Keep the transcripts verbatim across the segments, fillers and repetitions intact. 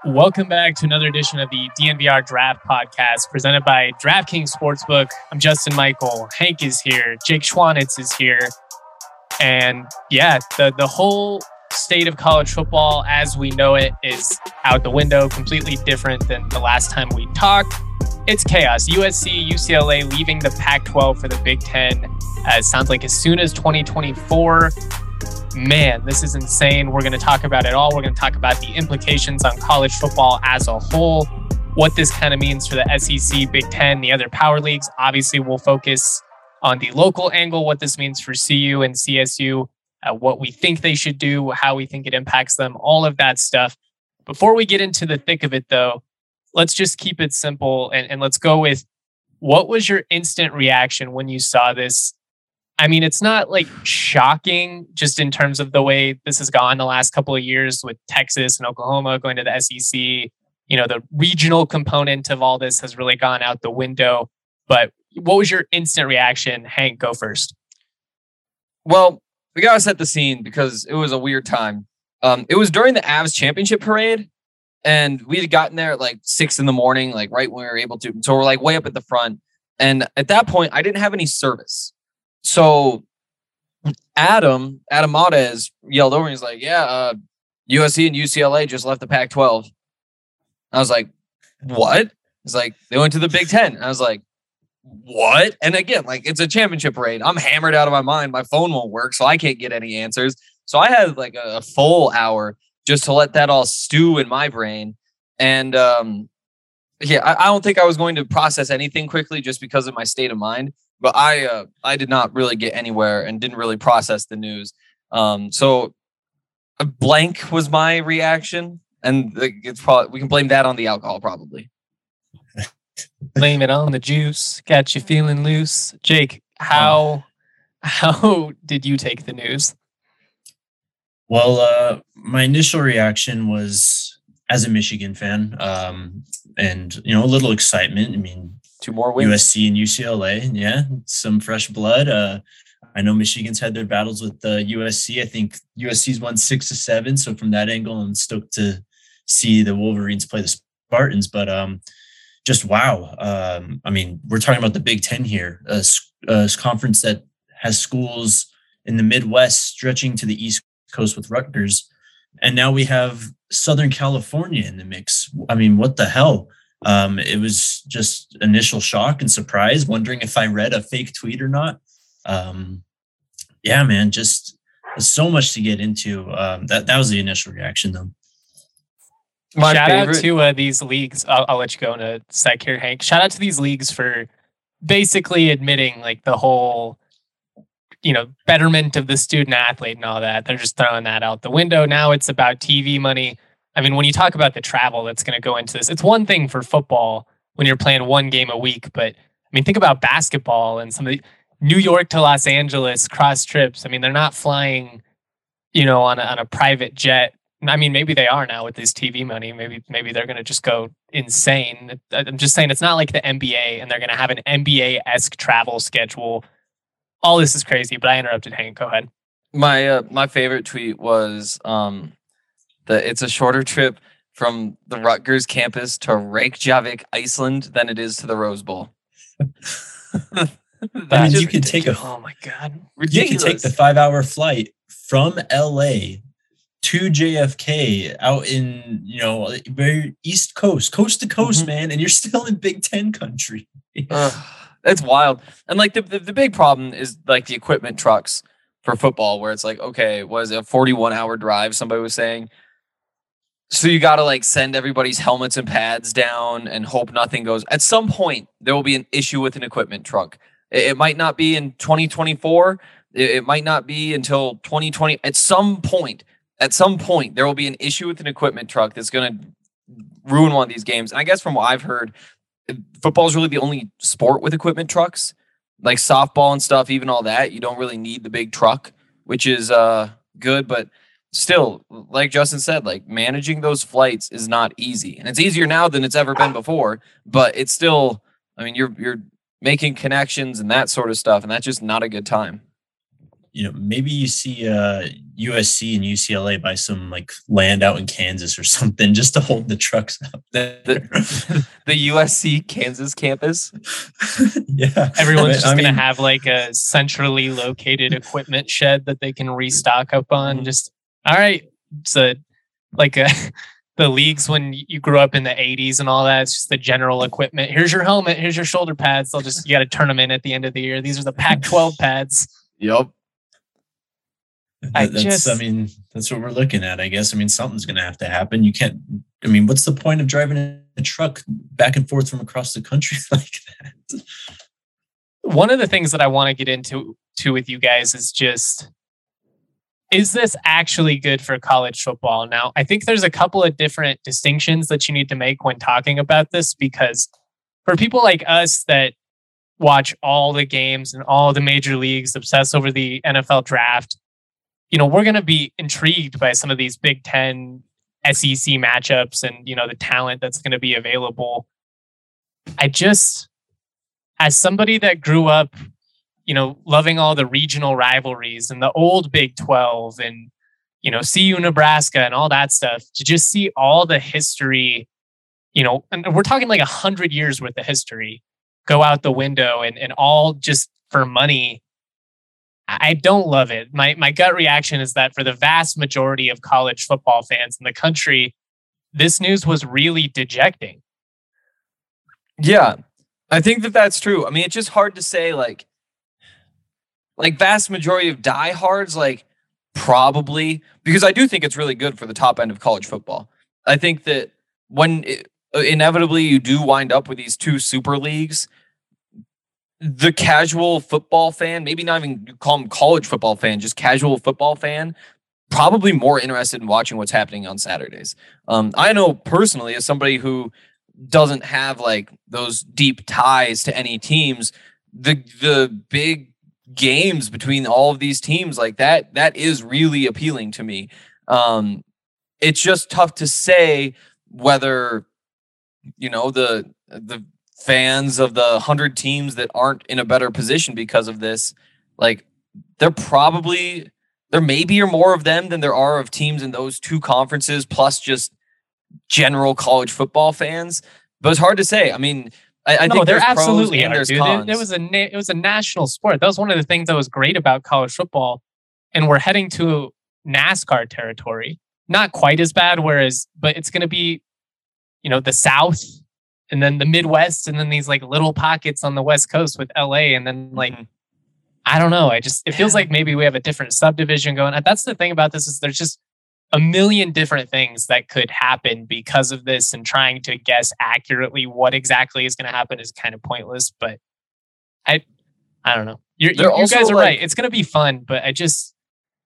Welcome back to another edition of the D N V R Draft Podcast presented by DraftKings Sportsbook. I'm Justin Michael. Hank is here. Jake Schwanitz is here. And yeah, the, the whole state of college football as we know it is out the window, completely different than the last time we talked. It's chaos. U S C, U C L A leaving the Pac twelve for the Big Ten. Uh, it sounds like as soon as twenty twenty-four. Man, this is insane. We're going to talk about it all. We're going to talk about the implications on college football as a whole, what this kind of means for the S E C, Big Ten, the other power leagues. Obviously, we'll focus on the local angle, what this means for C U and C S U, uh, what we think they should do, how we think it impacts them, all of that stuff. Before we get into the thick of it, though, let's just keep it simple and, and let's go with what was your instant reaction when you saw this? I mean, it's not like shocking just in terms of the way this has gone the last couple of years with Texas and Oklahoma going to the S E C. You know, the regional component of all this has really gone out the window. But what was your instant reaction? Hank, go first. Well, we got to set the scene because it was a weird time. Um, it was during the Avs championship parade, and we had gotten there at like six in the morning, like right when we were able to. So we're like way up at the front. And at that point, I didn't have any service. So Adam, Adam Modes yelled over and he's like, yeah, uh, U S C and U C L A just left the Pac twelve. I was like, what? He's like, they went to the Big Ten. I was like, what? And again, like it's a championship parade. I'm hammered out of my mind. My phone won't work, so I can't get any answers. So I had like a, a full hour just to let that all stew in my brain. And um, yeah, I, I don't think I was going to process anything quickly just because of my state of mind. But I uh, I did not really get anywhere and didn't really process the news. Um, so a blank was my reaction. And it's probably we can blame that on the alcohol, probably. Blame it on the juice. Got you feeling loose. Jake, how how did you take the news? Well, uh, my initial reaction was as a Michigan fan, um, and you know, a little excitement. I mean, two more wins. U S C and U C L A, yeah, some fresh blood. Uh, I know Michigan's had their battles with the uh, U S C. I think U S C's won six to seven. So from that angle, I'm stoked to see the Wolverines play the Spartans. But um, just wow. Um, I mean, we're talking about the Big Ten here, a, a conference that has schools in the Midwest stretching to the East Coast with Rutgers. And now we have Southern California in the mix. I mean, what the hell? Um, it was just initial shock and surprise, wondering if I read a fake tweet or not. Um, yeah, man, just so much to get into. Um, that, that was the initial reaction, though. My Shout favorite. out to uh, these leagues. I'll, I'll let you go in a sec here, Hank. Shout out to these leagues for basically admitting like the whole, you know, betterment of the student athlete and all that. They're just throwing that out the window. Now it's about T V money. I mean, when you talk about the travel that's going to go into this, it's one thing for football when you're playing one game a week. But I mean, think about basketball and some of the New York to Los Angeles cross trips. I mean, they're not flying, you know, on a, on a private jet. I mean, maybe they are now with this T V money. Maybe maybe they're going to just go insane. I'm just saying it's not like the N B A and they're going to have an N B A-esque travel schedule. All this is crazy, but I interrupted Hank. Go ahead. My uh, my favorite tweet was um, the it's a shorter trip from the Rutgers campus to Reykjavik, Iceland, than it is to the Rose Bowl. I mean, you can take a oh my god, ridiculous. You can take the five-hour flight from L A to J F K out in, you know, very East Coast, coast to coast, mm-hmm. man, and you're still in Big Ten country. uh, that's wild. And like the, the the big problem is like the equipment trucks for football, where it's like, okay, was it a forty-one hour drive? Somebody was saying. So you got to like send everybody's helmets and pads down and hope nothing goes. At some point, there will be an issue with an equipment truck. It, it might not be in twenty twenty-four. It, it might not be until twenty twenty. At some point. At some point, there will be an issue with an equipment truck that's going to ruin one of these games. And I guess from what I've heard, football is really the only sport with equipment trucks. Like softball and stuff, even all that, you don't really need the big truck, which is uh, good. But still, like Justin said, like managing those flights is not easy. And it's easier now than it's ever been before. But it's still, I mean, you're you're making connections and that sort of stuff. And that's just not a good time. you know, maybe you see uh, U S C and U C L A buy some like land out in Kansas or something just to hold the trucks up there. The, the U S C Kansas campus. Yeah. Everyone's I mean, just I going to mean, have like a centrally located equipment shed that they can restock up on. Mhm. Just, all right. So like a, the leagues when you grew up in the eighties and all that, it's just the general equipment. Here's your helmet. Here's your shoulder pads. They'll just, you got to turn them in at the end of the year. These are the Pac twelve pads. Yep. I that's, just- I mean, that's what we're looking at, I guess. I mean, something's going to have to happen. You can't, I mean, what's the point of driving a truck back and forth from across the country like that? One of the things that I want to get into to with you guys is just, is this actually good for college football? Now, I think there's a couple of different distinctions that you need to make when talking about this, because for people like us that watch all the games and all the major leagues, obsess over the N F L draft, you know, we're going to be intrigued by some of these Big Ten S E C matchups and, you know, the talent that's going to be available. I just, as somebody that grew up, you know, loving all the regional rivalries and the old Big twelve and, you know, C U Nebraska and all that stuff, to just see all the history, you know, and we're talking like a hundred years worth of history go out the window and, and all just for money. I don't love it. My my gut reaction is that for the vast majority of college football fans in the country, this news was really dejecting. Yeah, I think that that's true. I mean, it's just hard to say, like, like vast majority of diehards, like probably, because I do think it's really good for the top end of college football. I think that when it, inevitably you do wind up with these two super leagues, the casual football fan, maybe not even call them college football fan, just casual football fan, probably more interested in watching what's happening on Saturdays. Um, I know personally, as somebody who doesn't have like those deep ties to any teams, the the big games between all of these teams like that, that is really appealing to me. Um, it's just tough to say whether, you know, the the fans of the hundred teams that aren't in a better position because of this, like they're probably, there maybe are more of them than there are of teams in those two conferences, plus just general college football fans. But it's hard to say. I mean, I, I no, think there there's absolutely pros and are, there's dude. cons. It, it was a na- it was a national sport. That was one of the things that was great about college football. And we're heading to NASCAR territory. Not quite as bad, whereas, but it's going to be, you know, the South and then the Midwest and then these like little pockets on the West Coast with L A. And then like, Mhm. I don't know. I just, it feels like maybe we have a different subdivision going. And that's the thing about this is there's just a million different things that could happen because of this, and trying to guess accurately what exactly is going to happen is kind of pointless. But I, I don't know. You're, you They're you also, guys are like- right. It's going to be fun, but I just,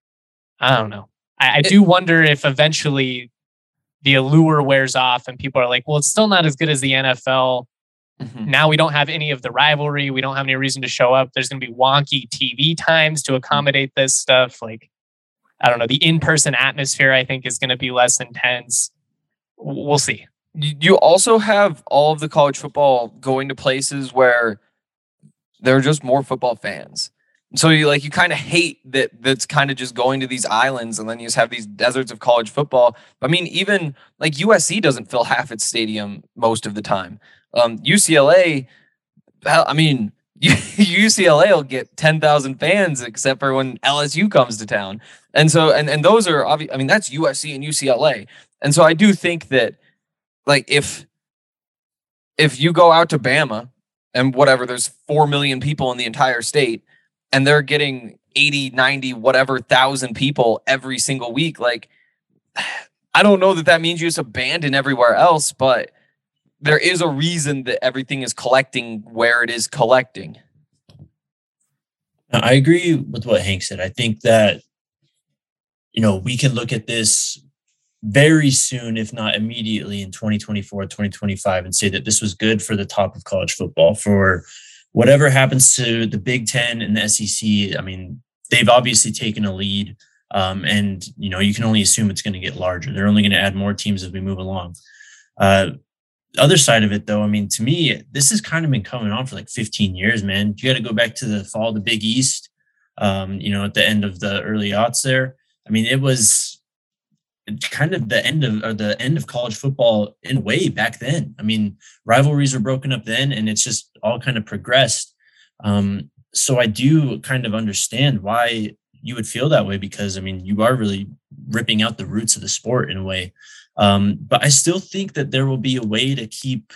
I don't know. I, I do wonder if eventually the allure wears off and people are like, well, it's still not as good as the N F L. Mhm. Now we don't have any of the rivalry. We don't have any reason to show up. There's going to be wonky T V times to accommodate this stuff. Like, I don't know. The in-person atmosphere, I think, is going to be less intense. W- We'll see. You you also have all of the college football going to places where there are just more football fans. So you like you kind of hate that that's kind of just going to these islands, and then you just have these deserts of college football. I mean, even like U S C doesn't fill half its stadium most of the time. Um, U C L A, hell, I mean, U C L A will get ten thousand fans except for when L S U comes to town. And so, and, and those are obvious. I mean, that's U S C and U C L A. And so I do think that like if, if you go out to Bama and whatever, there's four million people in the entire state and they're getting eighty, ninety, whatever thousand people every single week. Like, I don't know that that means you just abandon everywhere else, but there is a reason that everything is collecting where it is collecting. I agree with what Hank said. I think that, you know, we can look at this very soon, if not immediately in twenty twenty-four, twenty twenty-five, and say that this was good for the top of college football. For whatever happens to the Big Ten and the S E C, I mean, they've obviously taken a lead. Um, and, you know, you can only assume it's going to get larger. They're only going to add more teams as we move along. Uh, the other side of it, though, I mean, to me, this has kind of been coming on for like fifteen years, man. You got to go back to the fall of the Big East. um, you know, at the end of the early aughts there. I mean, it was kind of the end of or the end of college football in a way back then. I mean, rivalries were broken up then, and it's just all kind of progressed. Um, so I do kind of understand why you would feel that way, because I mean, you are really ripping out the roots of the sport in a way. Um, but I still think that there will be a way to keep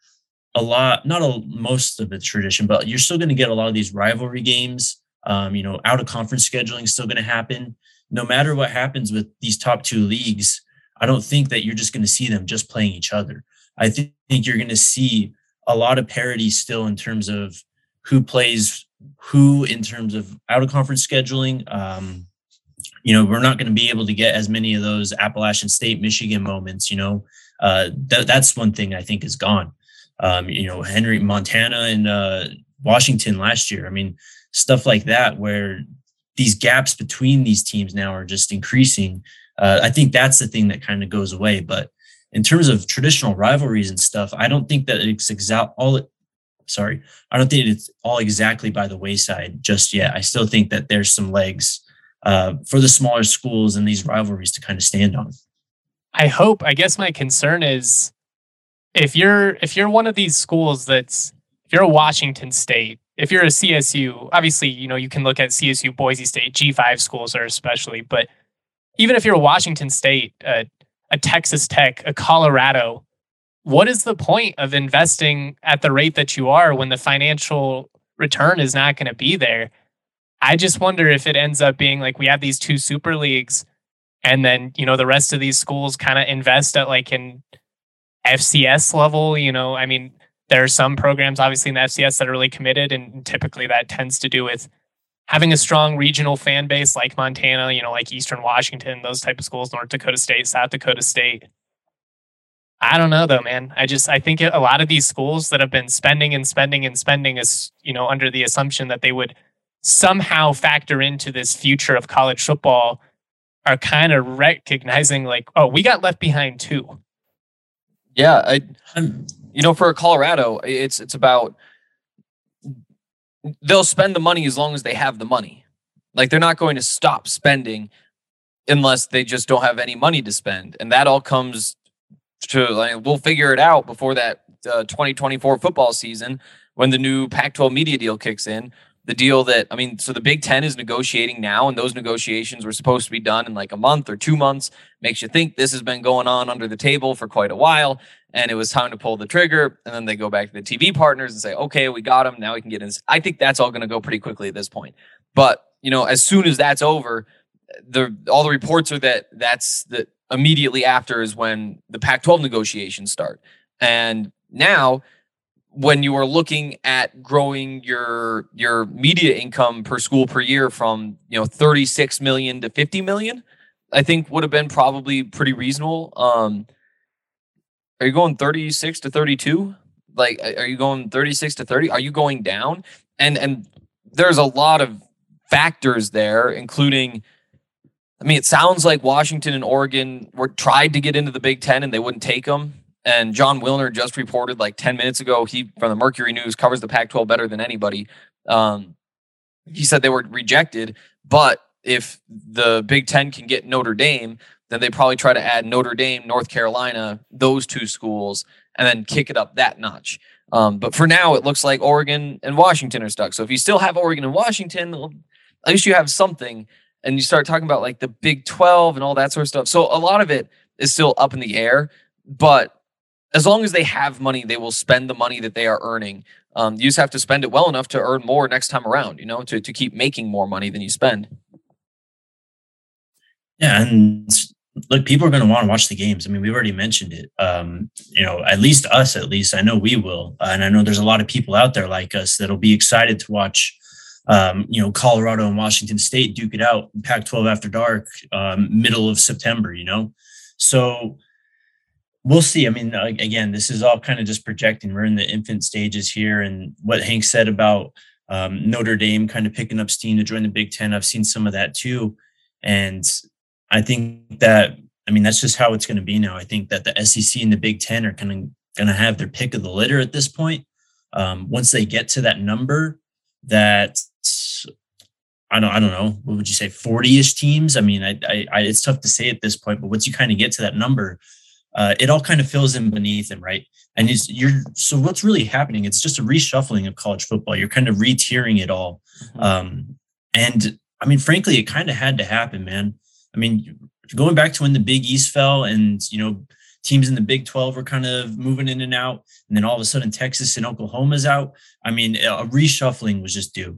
a lot, not a, most of the tradition, but you're still going to get a lot of these rivalry games. Um, you know, out of conference scheduling is still going to happen. No matter what happens with these top two leagues, I don't think that you're just going to see them just playing each other. I th- think you're going to see a lot of parity still in terms of who plays who in terms of out of conference scheduling. Um, you know, we're not going to be able to get as many of those Appalachian State, Michigan moments, you know, uh, th- that's one thing I think is gone. Um, you know, Henry, Montana and uh, Washington last year. I mean, stuff like that, where these gaps between these teams now are just increasing. Uh, I think that's the thing that kind of goes away. But in terms of traditional rivalries and stuff, I don't think that it's exa- all it, sorry, I don't think it's all exactly by the wayside just yet. I still think that there's some legs uh, for the smaller schools and these rivalries to kind of stand on. I hope, I guess my concern is if you're, if you're one of these schools that's, if you're a Washington State, if you're a C S U, obviously, you know, you can look at C S U, Boise State, G five schools are especially, but even if you're a Washington State, uh, a Texas Tech, a Colorado, what is the point of investing at the rate that you are when the financial return is not going to be there? I just wonder if it ends up being like we have these two super leagues and then, you know, the rest of these schools kind of invest at like an F C S level. You know, I mean, there are some programs obviously in the F C S that are really committed, and typically that tends to do with having a strong regional fan base like Montana, you know, like Eastern Washington, those type of schools, North Dakota State, South Dakota State. I don't know though, man. I just, I think a lot of these schools that have been spending and spending and spending is, you know, under the assumption that they would somehow factor into this future of college football are kind of recognizing like, oh, we got left behind too. Yeah. I, you know, for Colorado, it's, it's about, they'll spend the money as long as they have the money. Like they're not going to stop spending unless they just don't have any money to spend. And that all comes to, like, we'll figure it out before that uh, twenty twenty-four football season when the new Pac twelve media deal kicks in. The deal that, I mean, so the Big Ten is negotiating now, and those negotiations were supposed to be done in like a month or two months. Makes you think this has been going on under the table for quite a while, and it was time to pull the trigger. And then they go back to the T V partners and say, okay, we got them. Now we can get in. I think that's all going to go pretty quickly at this point. But, you know, as soon as that's over, the all the reports are that that's the immediately after is when the Pac twelve negotiations start. And now, when you are looking at growing your your media income per school per year from, you know, thirty-six million to fifty million, I think would have been probably pretty reasonable. Um, are you going thirty-six to thirty-two? Like, are you going thirty-six to thirty? Are you going down? And and there's a lot of factors there, including, I mean, it sounds like Washington and Oregon were tried to get into the Big Ten and they wouldn't take them. And John Wilner just reported like ten minutes ago, he from the Mercury News, covers the Pac twelve better than anybody. Um, he said they were rejected, but if the Big Ten can get Notre Dame, then they probably try to add Notre Dame, North Carolina, those two schools, and then kick it up that notch. Um, but for now, it looks like Oregon and Washington are stuck. So if you still have Oregon and Washington, at least you have something. And you start talking about like the Big twelve and all that sort of stuff. So a lot of it is still up in the air, but as long as they have money, they will spend the money that they are earning. Um, you just have to spend it well enough to earn more next time around, you know, to, to keep making more money than you spend. Yeah. And look, people are going to want to watch the games. I mean, we've already mentioned it. Um, you know, at least us, at least I know we will. Uh, and I know there's a lot of people out there like us that'll be excited to watch, um, you know, Colorado and Washington State duke it out, Pac twelve after dark, um, middle of September, you know? So we'll see. I mean, again, this is all kind of just projecting. We're in the infant stages here. And what Hank said about um, Notre Dame kind of picking up steam to join the Big Ten, I've seen some of that too. And I think that, I mean, that's just how it's going to be now. I think that the S E C and the Big Ten are kind of going to have their pick of the litter at this point. Um, once they get to that number that I don't, I don't know. What would you say? forty-ish teams? I mean, I, I, I, it's tough to say at this point, but once you kind of get to that number, uh, it all kind of fills in beneath them, right? And it's, you're, so what's really happening? It's just a reshuffling of college football. You're kind of re-tiering it all. Mm-hmm. Um, and I mean, frankly, it kind of had to happen, man. I mean, going back to when the Big East fell and, you know, teams in the Big twelve were kind of moving in and out, and then all of a sudden Texas and Oklahoma's out. I mean, a reshuffling was just due.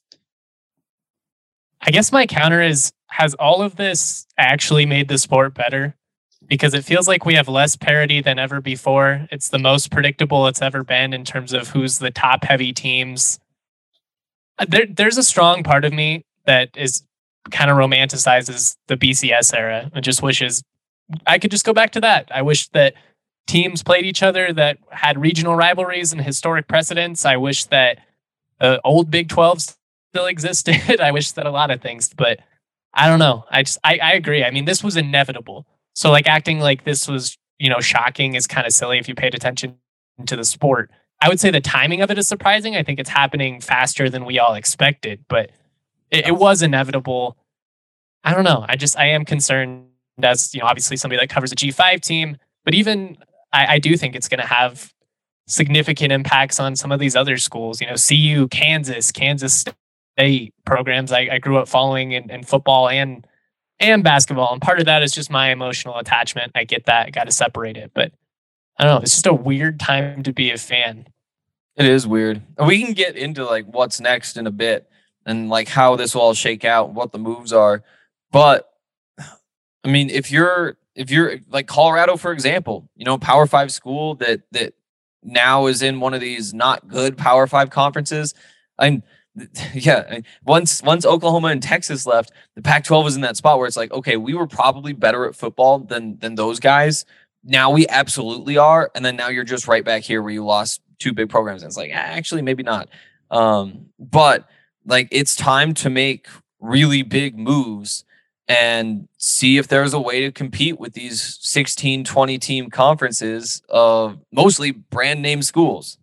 I guess my counter is, has all of this actually made the sport better? Because it feels like we have less parity than ever before. It's the most predictable it's ever been in terms of who's the top heavy teams. There, there's a strong part of me that is kind of romanticizes the B C S era and just wishes I could just go back to that. I wish that teams played each other that had regional rivalries and historic precedents. I wish that uh, old Big twelve still existed. I wish that a lot of things, but I don't know. I just, I, I agree. I mean, this was inevitable. So like acting like this was, you know, shocking is kind of silly if you paid attention to the sport. I would say the timing of it is surprising. I think it's happening faster than we all expected, but it, it was inevitable. I don't know. I just, I am concerned as, you know, obviously somebody that covers a G five team, but even I, I do think it's going to have significant impacts on some of these other schools, you know, C U, Kansas, Kansas State programs I, I grew up following in, in football and and basketball. And part of that is just my emotional attachment. I get that. I got to separate it. But I don't know. It's just a weird time to be a fan. It is weird. And we can get into like what's next in a bit and like how this will all shake out, what the moves are. But I mean, if you're if you're like Colorado, for example, you know, Power Five school that that now is in one of these not good Power Five conferences. I'm yeah. Once once Oklahoma and Texas left, the Pac twelve was in that spot where it's like, okay, we were probably better at football than than those guys. Now we absolutely are, and then now you're just right back here where you lost two big programs. And it's like, actually, maybe not. Um, but like, it's time to make really big moves and see if there's a way to compete with these sixteen, twenty team conferences of mostly brand name schools.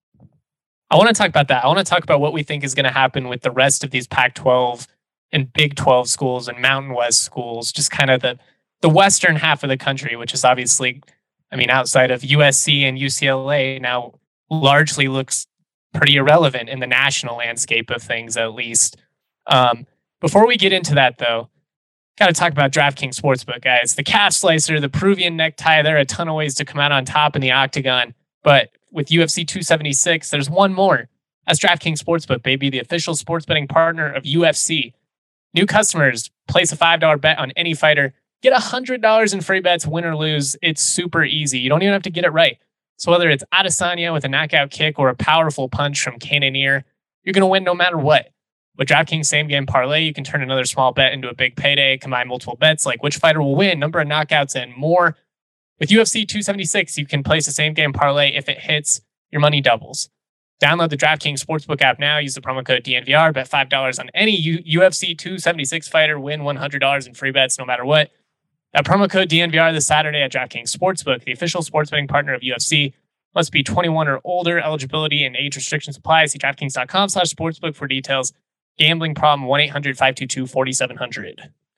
I want to talk about that. I want to talk about what we think is going to happen with the rest of these Pac twelve and Big twelve schools and Mountain West schools, just kind of the, the western half of the country, which is obviously, I mean, outside of U S C and U C L A now largely looks pretty irrelevant in the national landscape of things, at least. Um, before we get into that, though, got to talk about DraftKings Sportsbook, guys. The calf slicer, the Peruvian necktie, there are a ton of ways to come out on top in the octagon. But with U F C two seventy-six, there's one more. That's DraftKings Sportsbook, baby, the official sports betting partner of U F C. New customers, place a five dollar bet on any fighter. Get one hundred dollars in free bets, win or lose. It's super easy. You don't even have to get it right. So whether it's Adesanya with a knockout kick or a powerful punch from Cannonier, you're going to win no matter what. With DraftKings Same Game Parlay, you can turn another small bet into a big payday, combine multiple bets like which fighter will win, number of knockouts, and more. With U F C two seventy-six, you can place a Same Game Parlay. If it hits, your money doubles. Download the DraftKings Sportsbook app now. Use the promo code D N V R. Bet five dollars on any U- UFC two seventy-six fighter. Win one hundred dollars in free bets no matter what. That promo code D N V R this Saturday at DraftKings Sportsbook, the official sports betting partner of U F C. Must be twenty-one or older. Eligibility and age restrictions apply. See DraftKings.com slash sportsbook for details. Gambling problem, one eight hundred five two two four seven zero zero.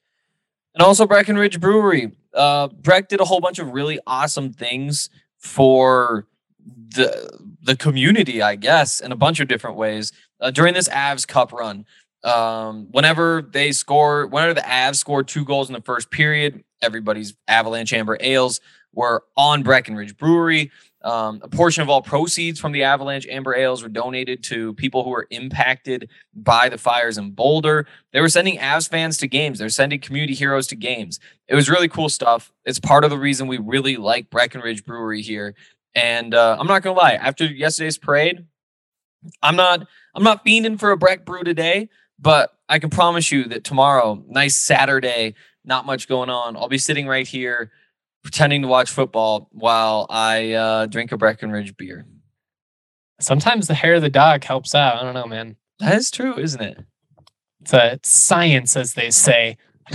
And also Breckenridge Brewery. Uh, Breck did a whole bunch of really awesome things for the the community, I guess, in a bunch of different ways uh, during this Avs Cup run. Um, whenever they score, whenever the Avs scored two goals in the first period, everybody's Avalanche Amber Ales were on Breckenridge Brewery. Um, a portion of all proceeds from the Avalanche Amber Ales were donated to people who were impacted by the fires in Boulder. They were sending Avs fans to games. They're sending community heroes to games. It was really cool stuff. It's part of the reason we really like Breckenridge Brewery here. And uh, I'm not gonna lie, after yesterday's parade, I'm not I'm not fiending for a Breck brew today, but I can promise you that tomorrow, nice Saturday, not much going on, I'll be sitting right here pretending to watch football while I uh, drink a Breckenridge beer. Sometimes the hair of the dog helps out. I don't know, man. That is true, isn't it? It's, a, it's science, as they say.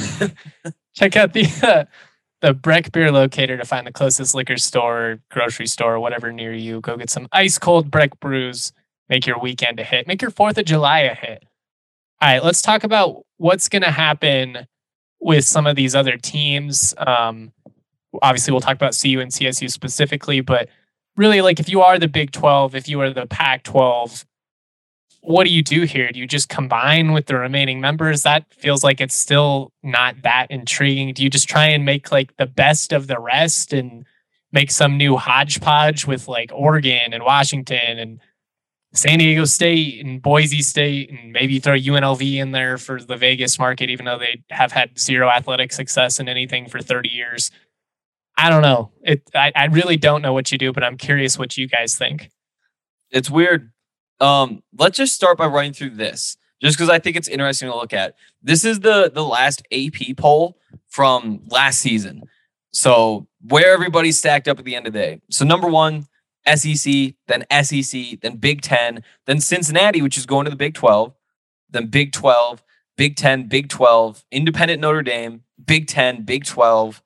Check out the uh, the Breck Beer Locator to find the closest liquor store, grocery store, whatever near you. Go get some ice cold Breck brews. Make your weekend a hit. Make your fourth of July a hit. All right, let's talk about what's going to happen with some of these other teams. Um, obviously, we'll talk about C U and C S U specifically, but really, like if you are the Big twelve, if you are the Pac twelve, what do you do here? Do you just combine with the remaining members? That feels like it's still not that intriguing. Do you just try and make like the best of the rest and make some new hodgepodge with like Oregon and Washington and San Diego State and Boise State, and maybe throw U N L V in there for the Vegas market, even though they have had zero athletic success in anything for thirty years. I don't know. It. I, I really don't know what you do, but I'm curious what you guys think. It's weird. Um, let's just start by running through this, just because I think it's interesting to look at. This is the the last A P poll from last season. So where everybody's stacked up at the end of the day. So number one, S E C, then S E C, then Big Ten, then Cincinnati, which is going to the Big twelve, then Big twelve, Big Ten, Big twelve, Independent Notre Dame, Big Ten, Big twelve.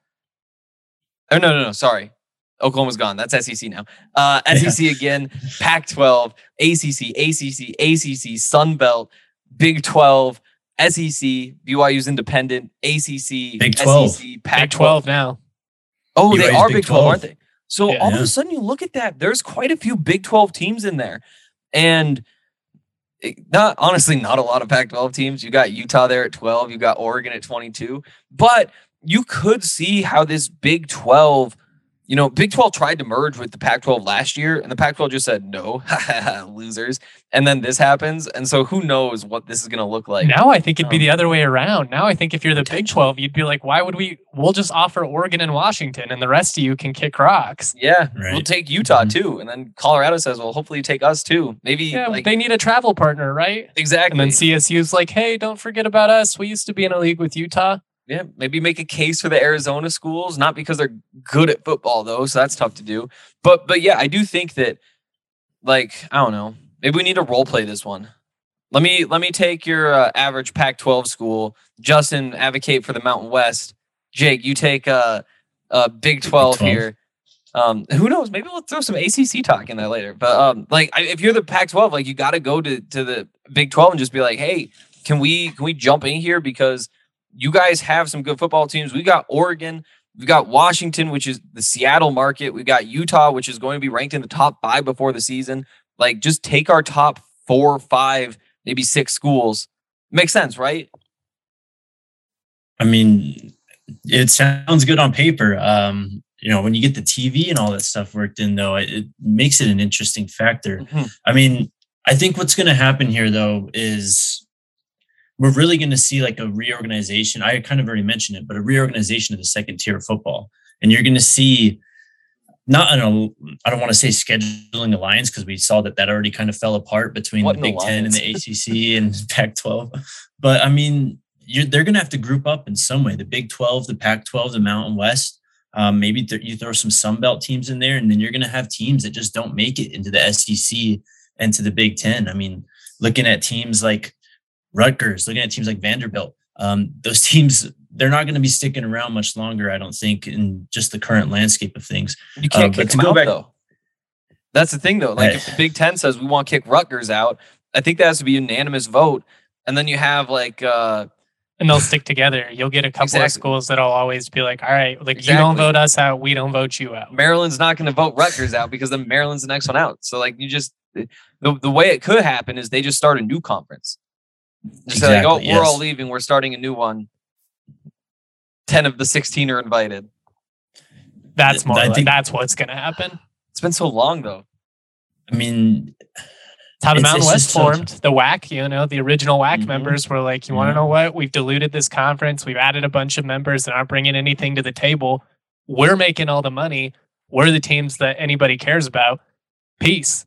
Oh, no, no, no, sorry. Oklahoma's gone. That's S E C now. Uh, S E C yeah. again, Pac twelve, A C C, A C C, A C C, Sun Belt, Big twelve, S E C, B Y U's independent, A C C, Big twelve. S E C, Pac Big twelve now. Oh, B Y U's they are Big Big twelve, twelve. aren't they? So Yeah. all Yeah. of a sudden you look at that, there's quite a few Big twelve teams in there. And it- not honestly, not a lot of Pac twelve teams. You got Utah there at twelve, you got Oregon at twenty-two. But you could see how this Big twelve, you know, Big twelve tried to merge with the Pac twelve last year, and the Pac twelve just said no, losers. And then this happens, and so who knows what this is going to look like. Now I think it'd be Um, the other way around. Now I think if you're the Big twelve, you'd be like, why would we? We'll just offer Oregon and Washington, and the rest of you can kick rocks. Yeah, Right. we'll take Utah Mhm. too, and then Colorado says, "Well, hopefully you take us too." Maybe Yeah, like they need a travel partner, right? exactly. And then C S U's like, hey, don't forget about us. We used to be in a league with Utah. Yeah, maybe make a case for the Arizona schools, not because they're good at football though, so that's tough to do. But but yeah, I do think that, like, I don't know, maybe we need to role play this one. Let me let me take your uh, average Pac twelve school. Justin, advocate for the Mountain West. Jake, you take uh, uh Big twelve, twelve. here. Um, who knows? Maybe we'll throw some A C C talk in there later. But um, like, I, if you're the Pac twelve, like, you got to go to to the Big twelve and just be like, hey, can we can we jump in here because you guys have some good football teams. We got Oregon. We've got Washington, which is the Seattle market. We got Utah, which is going to be ranked in the top five before the season. Like, just take our top four, five, maybe six schools. Makes sense, right? I mean, it sounds good on paper. Um, you know, when you get the T V and all that stuff worked in, though, it, it makes it an interesting factor. Mm-hmm. I mean, I think what's going to happen here, though, is we're really going to see like a reorganization. I kind of already mentioned it, but a reorganization of the second tier of football. And you're going to see not an, I don't want to say scheduling alliance, because we saw that that already kind of fell apart between What the an Big Ten and alliance? the A C C and Pac twelve. But I mean, you're, they're going to have to group up in some way. The Big twelve, the Pac twelve, the Mountain West. Um, maybe th- you throw some Sun Belt teams in there, and then you're going to have teams that just don't make it into the S E C and to the Big Ten. I mean, looking at teams like Rutgers, looking at teams like Vanderbilt, um, those teams, they're not going to be sticking around much longer, I don't think, in just the current landscape of things. You can't Uh, kick but to them go out, back- though. That's the thing, though. Like, Right. if the Big Ten says we want to kick Rutgers out, I think that has to be a unanimous vote. And then you have, like, uh, And they'll stick together. You'll get a couple Exactly. of schools that'll always be like, all right, like you Exactly. don't vote us out, we don't vote you out. Maryland's not going to vote Rutgers out because then Maryland's the next one out. So, like, you just, the, the way it could happen is they just start a new conference. Just say, like, oh, Exactly, we're all yes. leaving. We're starting a new one. ten of the sixteen are invited. That's more I like, think- that's what's going to happen. It's been so long, though. I mean, It's how the It's- Mountain it's West just so- formed. The W A C, you know, the original W A C Mhm. members were like, you want to Mhm. know what? We've diluted this conference. We've added a bunch of members that aren't bringing anything to the table. We're making all the money. We're the teams that anybody cares about. Peace.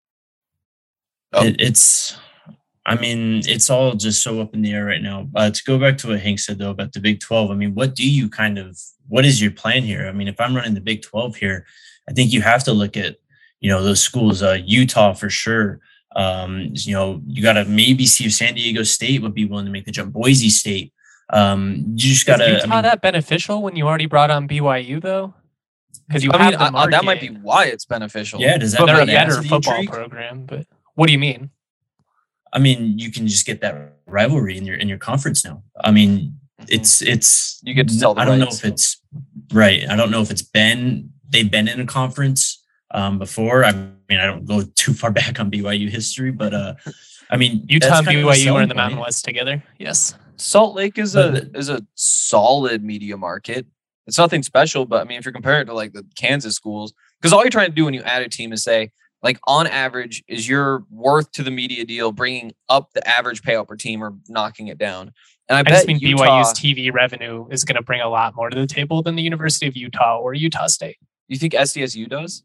Oh. it, it's, I mean, it's all just so up in the air right now. Uh, to go back to what Hank said, though, about the Big twelve, I mean, what do you kind of, what is your plan here? I mean, if I'm running the Big twelve here, I think you have to look at, you know, those schools, uh, Utah for sure. Um, you know, you got to maybe see if San Diego State would be willing to make the jump. Boise State. Um, you just got Is to, Utah I mean, that beneficial when you already brought on B Y U, though? Because you I have mean, the I- I- market. that might be why it's beneficial. yeah, does that But they're a not add to better the football intrigue? program. But what do you mean? I mean, you can just get that rivalry in your in your conference now. I mean, it's it's you get to sell the I don't rights. know if it's right. I don't know if it's been they've been in a conference um, before. I mean, I don't go too far back on B Y U history, but uh, I mean, Utah and B Y U are in the point. Mountain West together. Yes, Salt Lake is But a the- is a solid media market. It's nothing special, but I mean, if you're comparing it to like the Kansas schools, because all you're trying to do when you add a team is say, like, on average, is your worth to the media deal bringing up the average payout per team or knocking it down? And I, I bet just mean Utah, B Y U's T V revenue is going to bring a lot more to the table than the University of Utah or Utah State. You think S D S U does?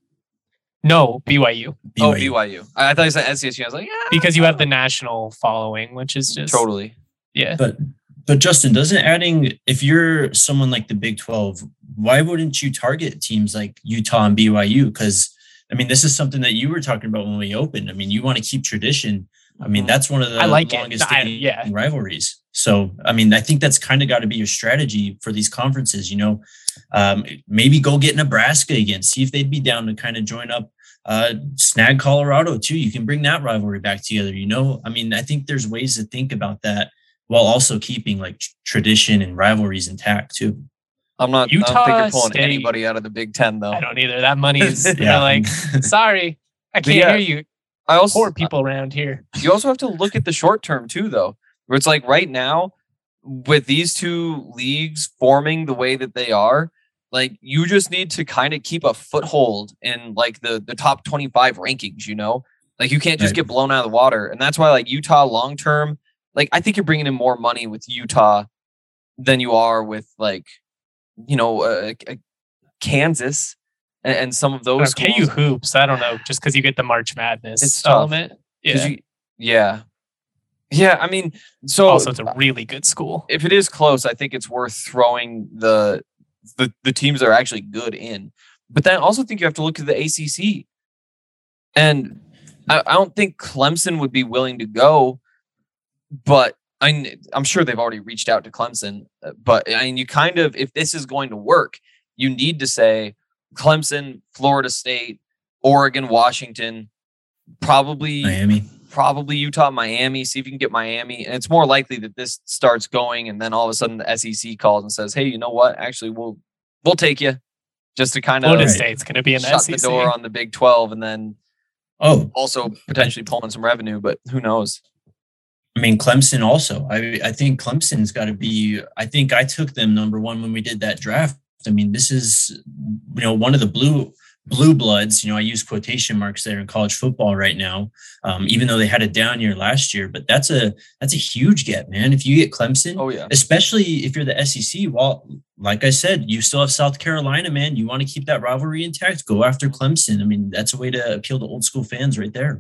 No, B Y U. Oh, B Y U. I, I thought you said S D S U. I was like, yeah, Because you have the national following, which is just totally. Yeah. But but Justin, doesn't adding if you're someone like the Big twelve, why wouldn't you target teams like Utah and B Y U? Because I mean, this is something that you were talking about when we opened. I mean, you want to keep tradition. I mean, that's one of the I like it. longest I- standing yeah. rivalries. So, I mean, I think that's kind of got to be your strategy for these conferences. You know, um, maybe go get Nebraska again, see if they'd be down to kind of join up. Uh, snag Colorado too. You can bring that rivalry back together. You know, I mean, I think there's ways to think about that while also keeping like tr- tradition and rivalries intact too. I'm not. I Utah don't think you're pulling State- anybody out of the Big Ten, though. I don't either. That money is they're Yeah. like, sorry, I can't yeah. hear you. I also Poor people around here. you also have to look at the short term too, though, where it's like right now with these two leagues forming the way that they are, like you just need to kind of keep a foothold in like the the top twenty-five rankings, you know, like you can't just Right. get blown out of the water. And that's why like Utah long term, like I think you're bringing in more money with Utah than you are with like, you know, uh, uh, Kansas and, and some of those K U hoops. I don't know, just because you get the March Madness It's tough. element. 'Cause Yeah. you- yeah. Yeah. I mean, so Also, it's a really good school. if it is close, I think it's worth throwing the the the teams that are actually good in. But then I also think you have to look at the A C C. And I, I don't think Clemson would be willing to go, but I, kn- I'm sure they've already reached out to Clemson. uh, But I mean, you kind of, if this is going to work, you need to say Clemson, Florida State, Oregon, Washington, probably Miami. probably Utah, Miami. See if you can get Miami. And it's more likely that this starts going and then all of a sudden the S E C calls and says, hey, you know what? Actually, we'll we'll take you, just to kind of Florida Right. State's going to be in the shut S E C. the door on the Big twelve and then Oh, also potentially pulling some revenue, but who knows? I mean, Clemson also. I I think Clemson's got to be. I think I took them number one when we did that draft. I mean, this is you know one of the blue blue bloods. You know, I use quotation marks there in college football right now, um, even though they had a down year last year. But that's a that's a huge get, man. If you get Clemson, Oh yeah. especially if you're the S E C. Well, like I said, you still have South Carolina, man. You want to keep that rivalry intact. Go after Clemson. I mean, that's a way to appeal to old school fans right there.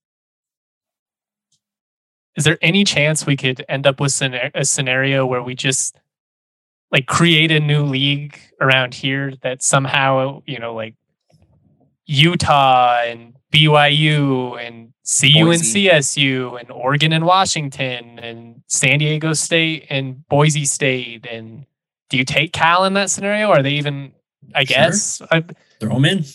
Is there any chance we could end up with scena- a scenario where we just like create a new league around here that somehow, you know, like Utah and B Y U and C U and Boise. C S U and Oregon and Washington and San Diego State and Boise State? And do you take Cal in that scenario? Are they even, I Sure. guess, I, Throw them in.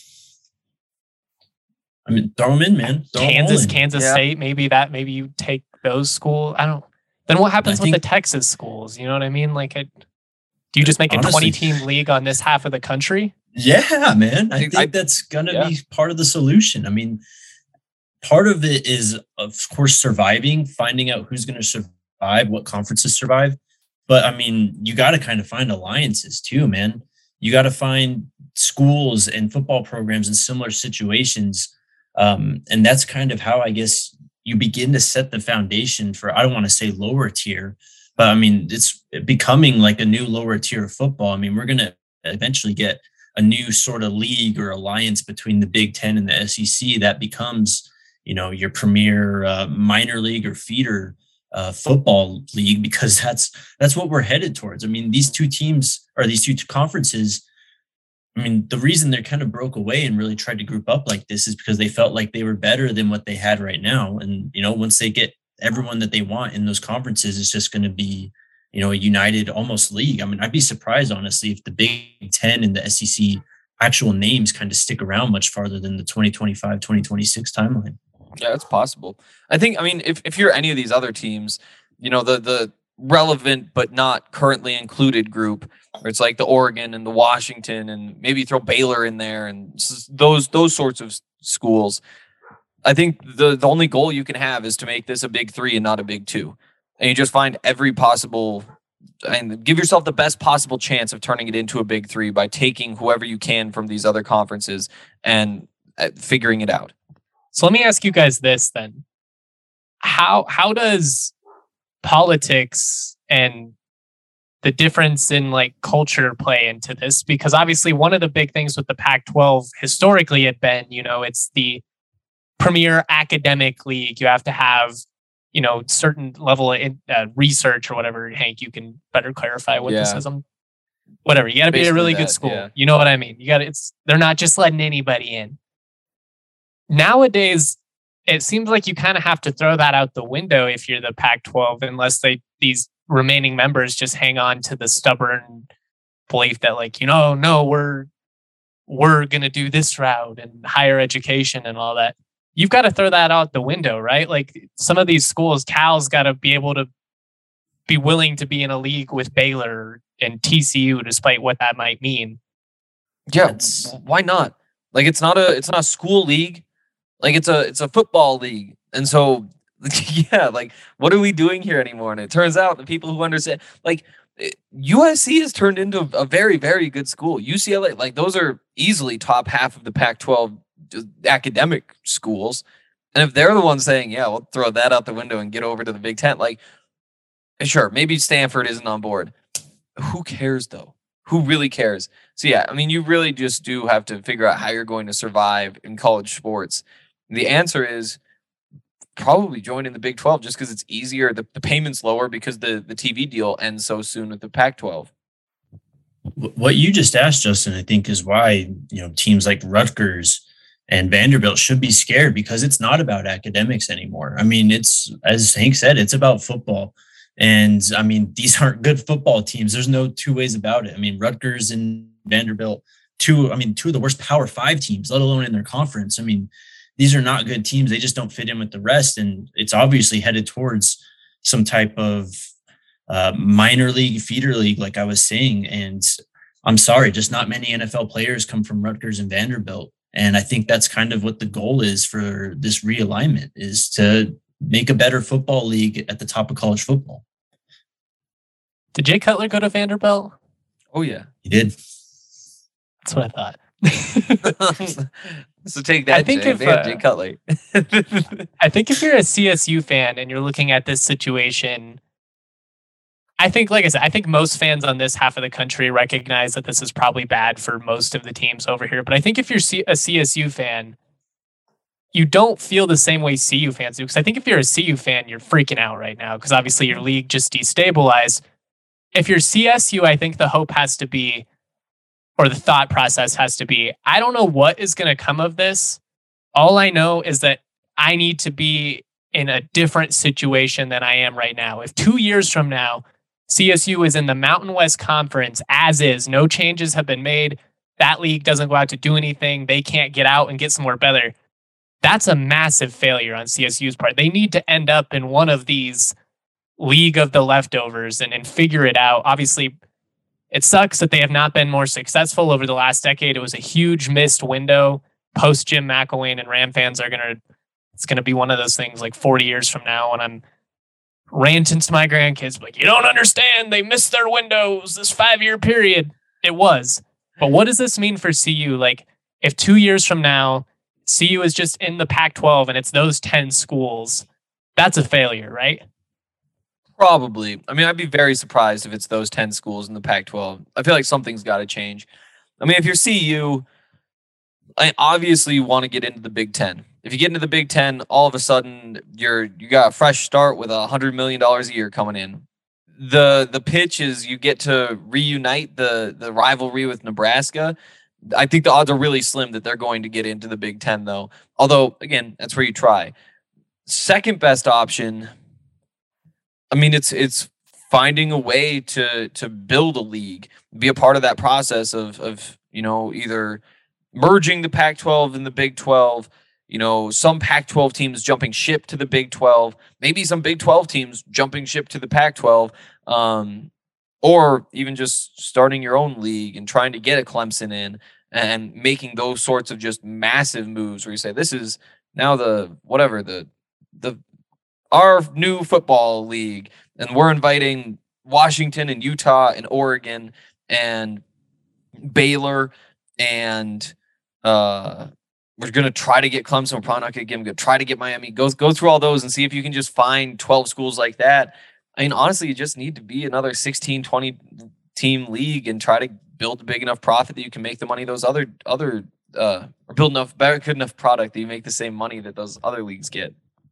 I mean, throw them in, man. Throw 'em all Kansas, in. Kansas Yeah. State, maybe that, maybe you take those schools. I don't. Then what happens I with the think- Texas schools? You know what I mean? Like, it, do you just make a Honestly- twenty team league on this half of the country? Yeah, man. I Dude, think I- that's gonna yeah. be part of the solution. I mean, part of it is, of course, surviving, finding out who's going to survive, what conferences survive. But I mean, you got to kind of find alliances too, man. You got to find schools and football programs in similar situations. Um, and that's kind of how I guess you begin to set the foundation for, I don't want to say lower tier, but I mean, it's becoming like a new lower tier of football. I mean, we're going to eventually get a new sort of league or alliance between the Big Ten and the S E C that becomes, you know, your premier uh, minor league or feeder uh, football league, because that's that's what we're headed towards. I mean, these two teams or these two conferences, I mean, the reason they kind of broke away and really tried to group up like this is because they felt like they were better than what they had right now. And, you know, once they get everyone that they want in those conferences, it's just going to be, you know, a united almost league. I mean, I'd be surprised, honestly, if the Big Ten and the S E C actual names kind of stick around much farther than the twenty twenty-five, twenty twenty-six timeline. Yeah, it's possible. I think, I mean, if, if you're any of these other teams, you know, the the relevant but not currently included group, where it's like the Oregon and the Washington and maybe throw Baylor in there and those those sorts of schools. I think the, the only goal you can have is to make this a big three and not a big two. And you just find every possible and give yourself the best possible chance of turning it into a big three by taking whoever you can from these other conferences and uh, figuring it out. So let me ask you guys this then. How how does politics and the difference in like culture play into this? Because obviously one of the big things with the Pac twelve historically had been, you know, it's the premier academic league. You have to have, you know, certain level of uh, research or whatever. Hank, you can better clarify what yeah. this is. Um, whatever. You got to be a really that, good school. Yeah. You know what I mean? You got it's they're not just letting anybody in. Nowadays, it seems like you kind of have to throw that out the window if you're the Pac twelve, unless they these remaining members just hang on to the stubborn belief that, like, you know, no, we're we're gonna do this route and higher education and all that. You've got to throw that out the window, right? Like some of these schools, Cal's got to be able to be willing to be in a league with Baylor and T C U, despite what that might mean. Yeah, That's... why not? Like it's not a it's not a school league. Like it's a it's a football league. And so yeah, like what are we doing here anymore? And it turns out the people who understand, like U S C has turned into a very, very good school. U C L A, like those are easily top half of the Pac twelve academic schools. And if they're the ones saying, yeah, we'll throw that out the window and get over to the Big Ten, like sure, maybe Stanford isn't on board. Who cares though? Who really cares? So yeah, I mean, you really just do have to figure out how you're going to survive in college sports. The answer is probably join in the Big twelve just because it's easier. The, the payment's lower because the, the T V deal ends so soon with the Pac twelve. What you just asked, Justin, I think is why, you know, teams like Rutgers and Vanderbilt should be scared, because it's not about academics anymore. I mean, it's, as Hank said, it's about football. And I mean, these aren't good football teams. There's no two ways about it. I mean, Rutgers and Vanderbilt, two, I mean, two of the worst Power Five teams, let alone in their conference. I mean, these are not good teams. They just don't fit in with the rest. And it's obviously headed towards some type of uh, minor league, feeder league, like I was saying. And I'm sorry, just not many N F L players come from Rutgers and Vanderbilt. And I think that's kind of what the goal is for this realignment, is to make a better football league at the top of college football. Did Jay Cutler go to Vanderbilt? Oh, yeah. He did. That's what I thought. So take that, I think Jay, if, Man, uh, Jay Cutler. I think if you're a C S U fan and you're looking at this situation, I think, like I said, I think most fans on this half of the country recognize that this is probably bad for most of the teams over here. But I think if you're a C S U fan, you don't feel the same way C U fans do. Because I think if you're a C U fan, you're freaking out right now because obviously your league just destabilized. If you're C S U, I think the hope has to be, or the thought process has to be, I don't know what is going to come of this. All I know is that I need to be in a different situation than I am right now. If two years from now, C S U is in the Mountain West Conference as is, no changes have been made, that league doesn't go out to do anything, they can't get out and get somewhere better, that's a massive failure on C S U's part. They need to end up in one of these league of the leftovers and, and figure it out. Obviously, it sucks that they have not been more successful over the last decade. It was a huge missed window. Post Jim McElwain, and Ram fans are going to, it's going to be one of those things like forty years from now when I'm ranting to my grandkids, like, you don't understand, they missed their windows this five-year period. It was. But what does this mean for C U? Like, if two years from now, C U is just in the Pac twelve and it's those ten schools, that's a failure, right? Probably. I mean, I'd be very surprised if it's those ten schools in the Pac twelve. I feel like something's got to change. I mean, if you're C U, I obviously want to get into the Big Ten. If you get into the Big Ten, all of a sudden you're you got a fresh start with a hundred million dollars a year coming in. The the pitch is you get to reunite the the rivalry with Nebraska. I think the odds are really slim that they're going to get into the Big Ten, though. Although, again, that's where you try. Second best option, I mean, it's it's finding a way to to build a league, be a part of that process of of you know either merging the Pac twelve and the Big twelve. you know, some Pac twelve teams jumping ship to the Big twelve, maybe some Big twelve teams jumping ship to the Pac twelve, um, or even just starting your own league and trying to get a Clemson in and making those sorts of just massive moves where you say, this is now the, whatever, the, the, our new football league. And we're inviting Washington and Utah and Oregon and Baylor, and uh, we're going to try to get Clemson. We're probably not going to get them. Go try to get Miami. Go, go through all those and see if you can just find twelve schools like that. I mean, honestly, you just need to be another sixteen, twenty team league and try to build a big enough profit that you can make the money those other, other uh, or build enough, better, good enough product that you make the same money that those other leagues get.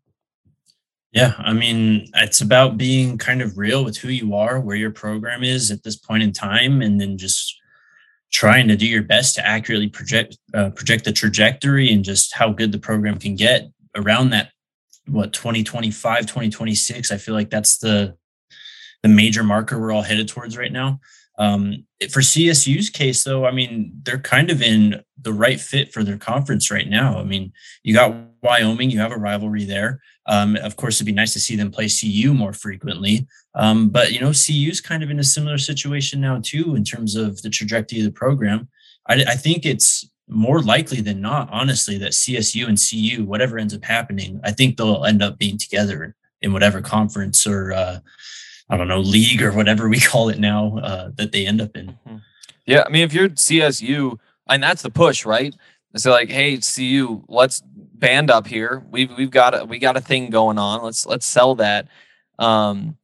Yeah, I mean, it's about being kind of real with who you are, where your program is at this point in time, and then just trying to do your best to accurately project uh, project the trajectory and just how good the program can get around that, what, twenty twenty-five, twenty twenty-six. I feel like that's the the major marker we're all headed towards right now. Um, for C S U's case, though, I mean, they're kind of in the right fit for their conference right now. I mean, you got Wyoming, you have a rivalry there. Um, of course, it'd be nice to see them play C U more frequently. Um, but, you know, C U's kind of in a similar situation now, too, in terms of the trajectory of the program. I, I think it's more likely than not, honestly, that C S U and C U, whatever ends up happening, I think they'll end up being together in whatever conference or, uh, I don't know, league or whatever we call it now, uh, that they end up in. Yeah, I mean, if you're C S U, and that's the push, right? It's like, hey, C U, let's band up here. We've we've got a we got a thing going on. Let's let's sell that. Um,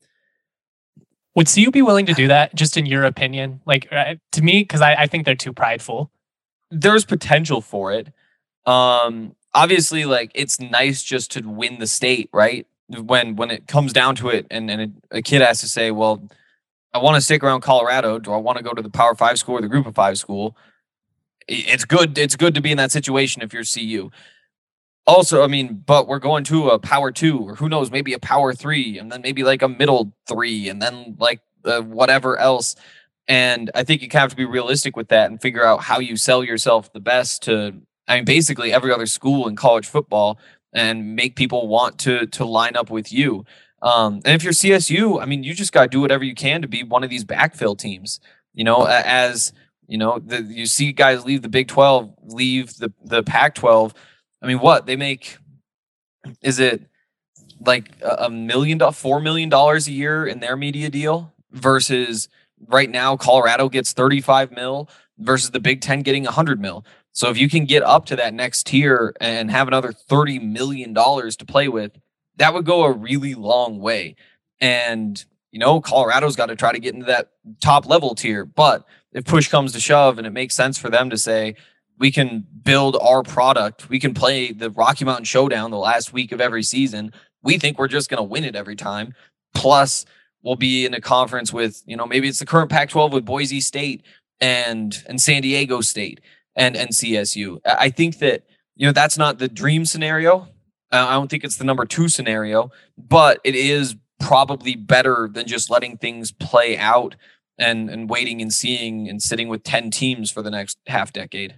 Would C U be willing to do that? Just in your opinion, like uh, to me, because I, I think they're too prideful. There's potential for it. Um, obviously, like it's nice just to win the state, right? When when it comes down to it, and and a, a kid has to say, well, I want to stick around Colorado. Do I want to go to the Power Five school or the Group of Five school? It's good. It's good to be in that situation if you're C U. Also, I mean, but we're going to a Power Two, or who knows, maybe a Power Three, and then maybe like a Middle Three, and then like uh, whatever else. And I think you kind of have to be realistic with that and figure out how you sell yourself the best to, I mean, basically every other school in college football, and make people want to to line up with you. Um, and if you're C S U, I mean, you just got to do whatever you can to be one of these backfill teams. You know, as you know, the, you see guys leave the Big twelve, leave the the Pac twelve. I mean, what they make, is it like a million, four million dollars a year in their media deal versus right now Colorado gets thirty-five mil versus the Big Ten getting a hundred mil. So if you can get up to that next tier and have another thirty million dollars to play with, that would go a really long way. And, you know, Colorado's got to try to get into that top level tier. But if push comes to shove and it makes sense for them to say, we can build our product, we can play the Rocky Mountain Showdown the last week of every season, we think we're just going to win it every time. Plus, we'll be in a conference with, you know, maybe it's the current Pac twelve with Boise State and and San Diego State and, and C S U. I think that, you know, that's not the dream scenario. Uh, I don't think it's the number two scenario, but it is probably better than just letting things play out and, and waiting and seeing and sitting with ten teams for the next half decade.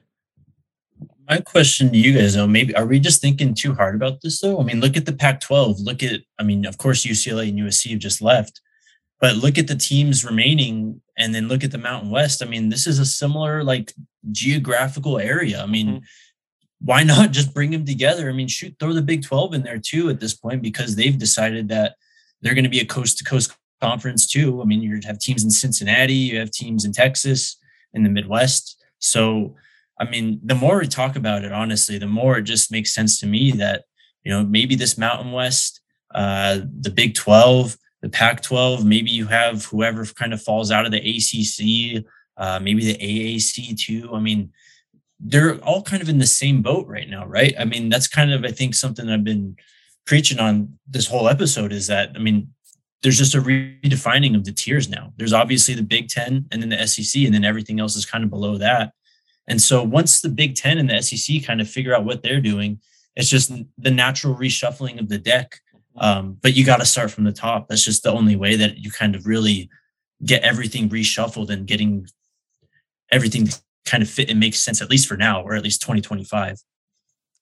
My question to you guys, though, maybe are we just thinking too hard about this, though? I mean, look at the Pac twelve. Look at, I mean, of course, U C L A and U S C have just left, but look at the teams remaining and then look at the Mountain West. I mean, this is a similar, like, geographical area. I mean, mm-hmm. why not just bring them together? I mean, shoot, throw the Big twelve in there, too, at this point, because they've decided that they're going to be a coast-to-coast conference, too. I mean, you have teams in Cincinnati, you have teams in Texas, in the Midwest. So, I mean, the more we talk about it, honestly, the more it just makes sense to me that, you know, maybe this Mountain West, uh, the Big twelve, the Pac twelve, maybe you have whoever kind of falls out of the A C C, uh, maybe the A A C too. I mean, they're all kind of in the same boat right now, right? I mean, that's kind of, I think, something I've been preaching on this whole episode is that, I mean, there's just a redefining of the tiers now. There's obviously the Big Ten and then the S E C, and then everything else is kind of below that. And so once the Big Ten and the S E C kind of figure out what they're doing, it's just the natural reshuffling of the deck. Um, but you got to start from the top. That's just the only way that you kind of really get everything reshuffled and getting everything to kind of fit and make sense, at least for now, or at least twenty twenty-five.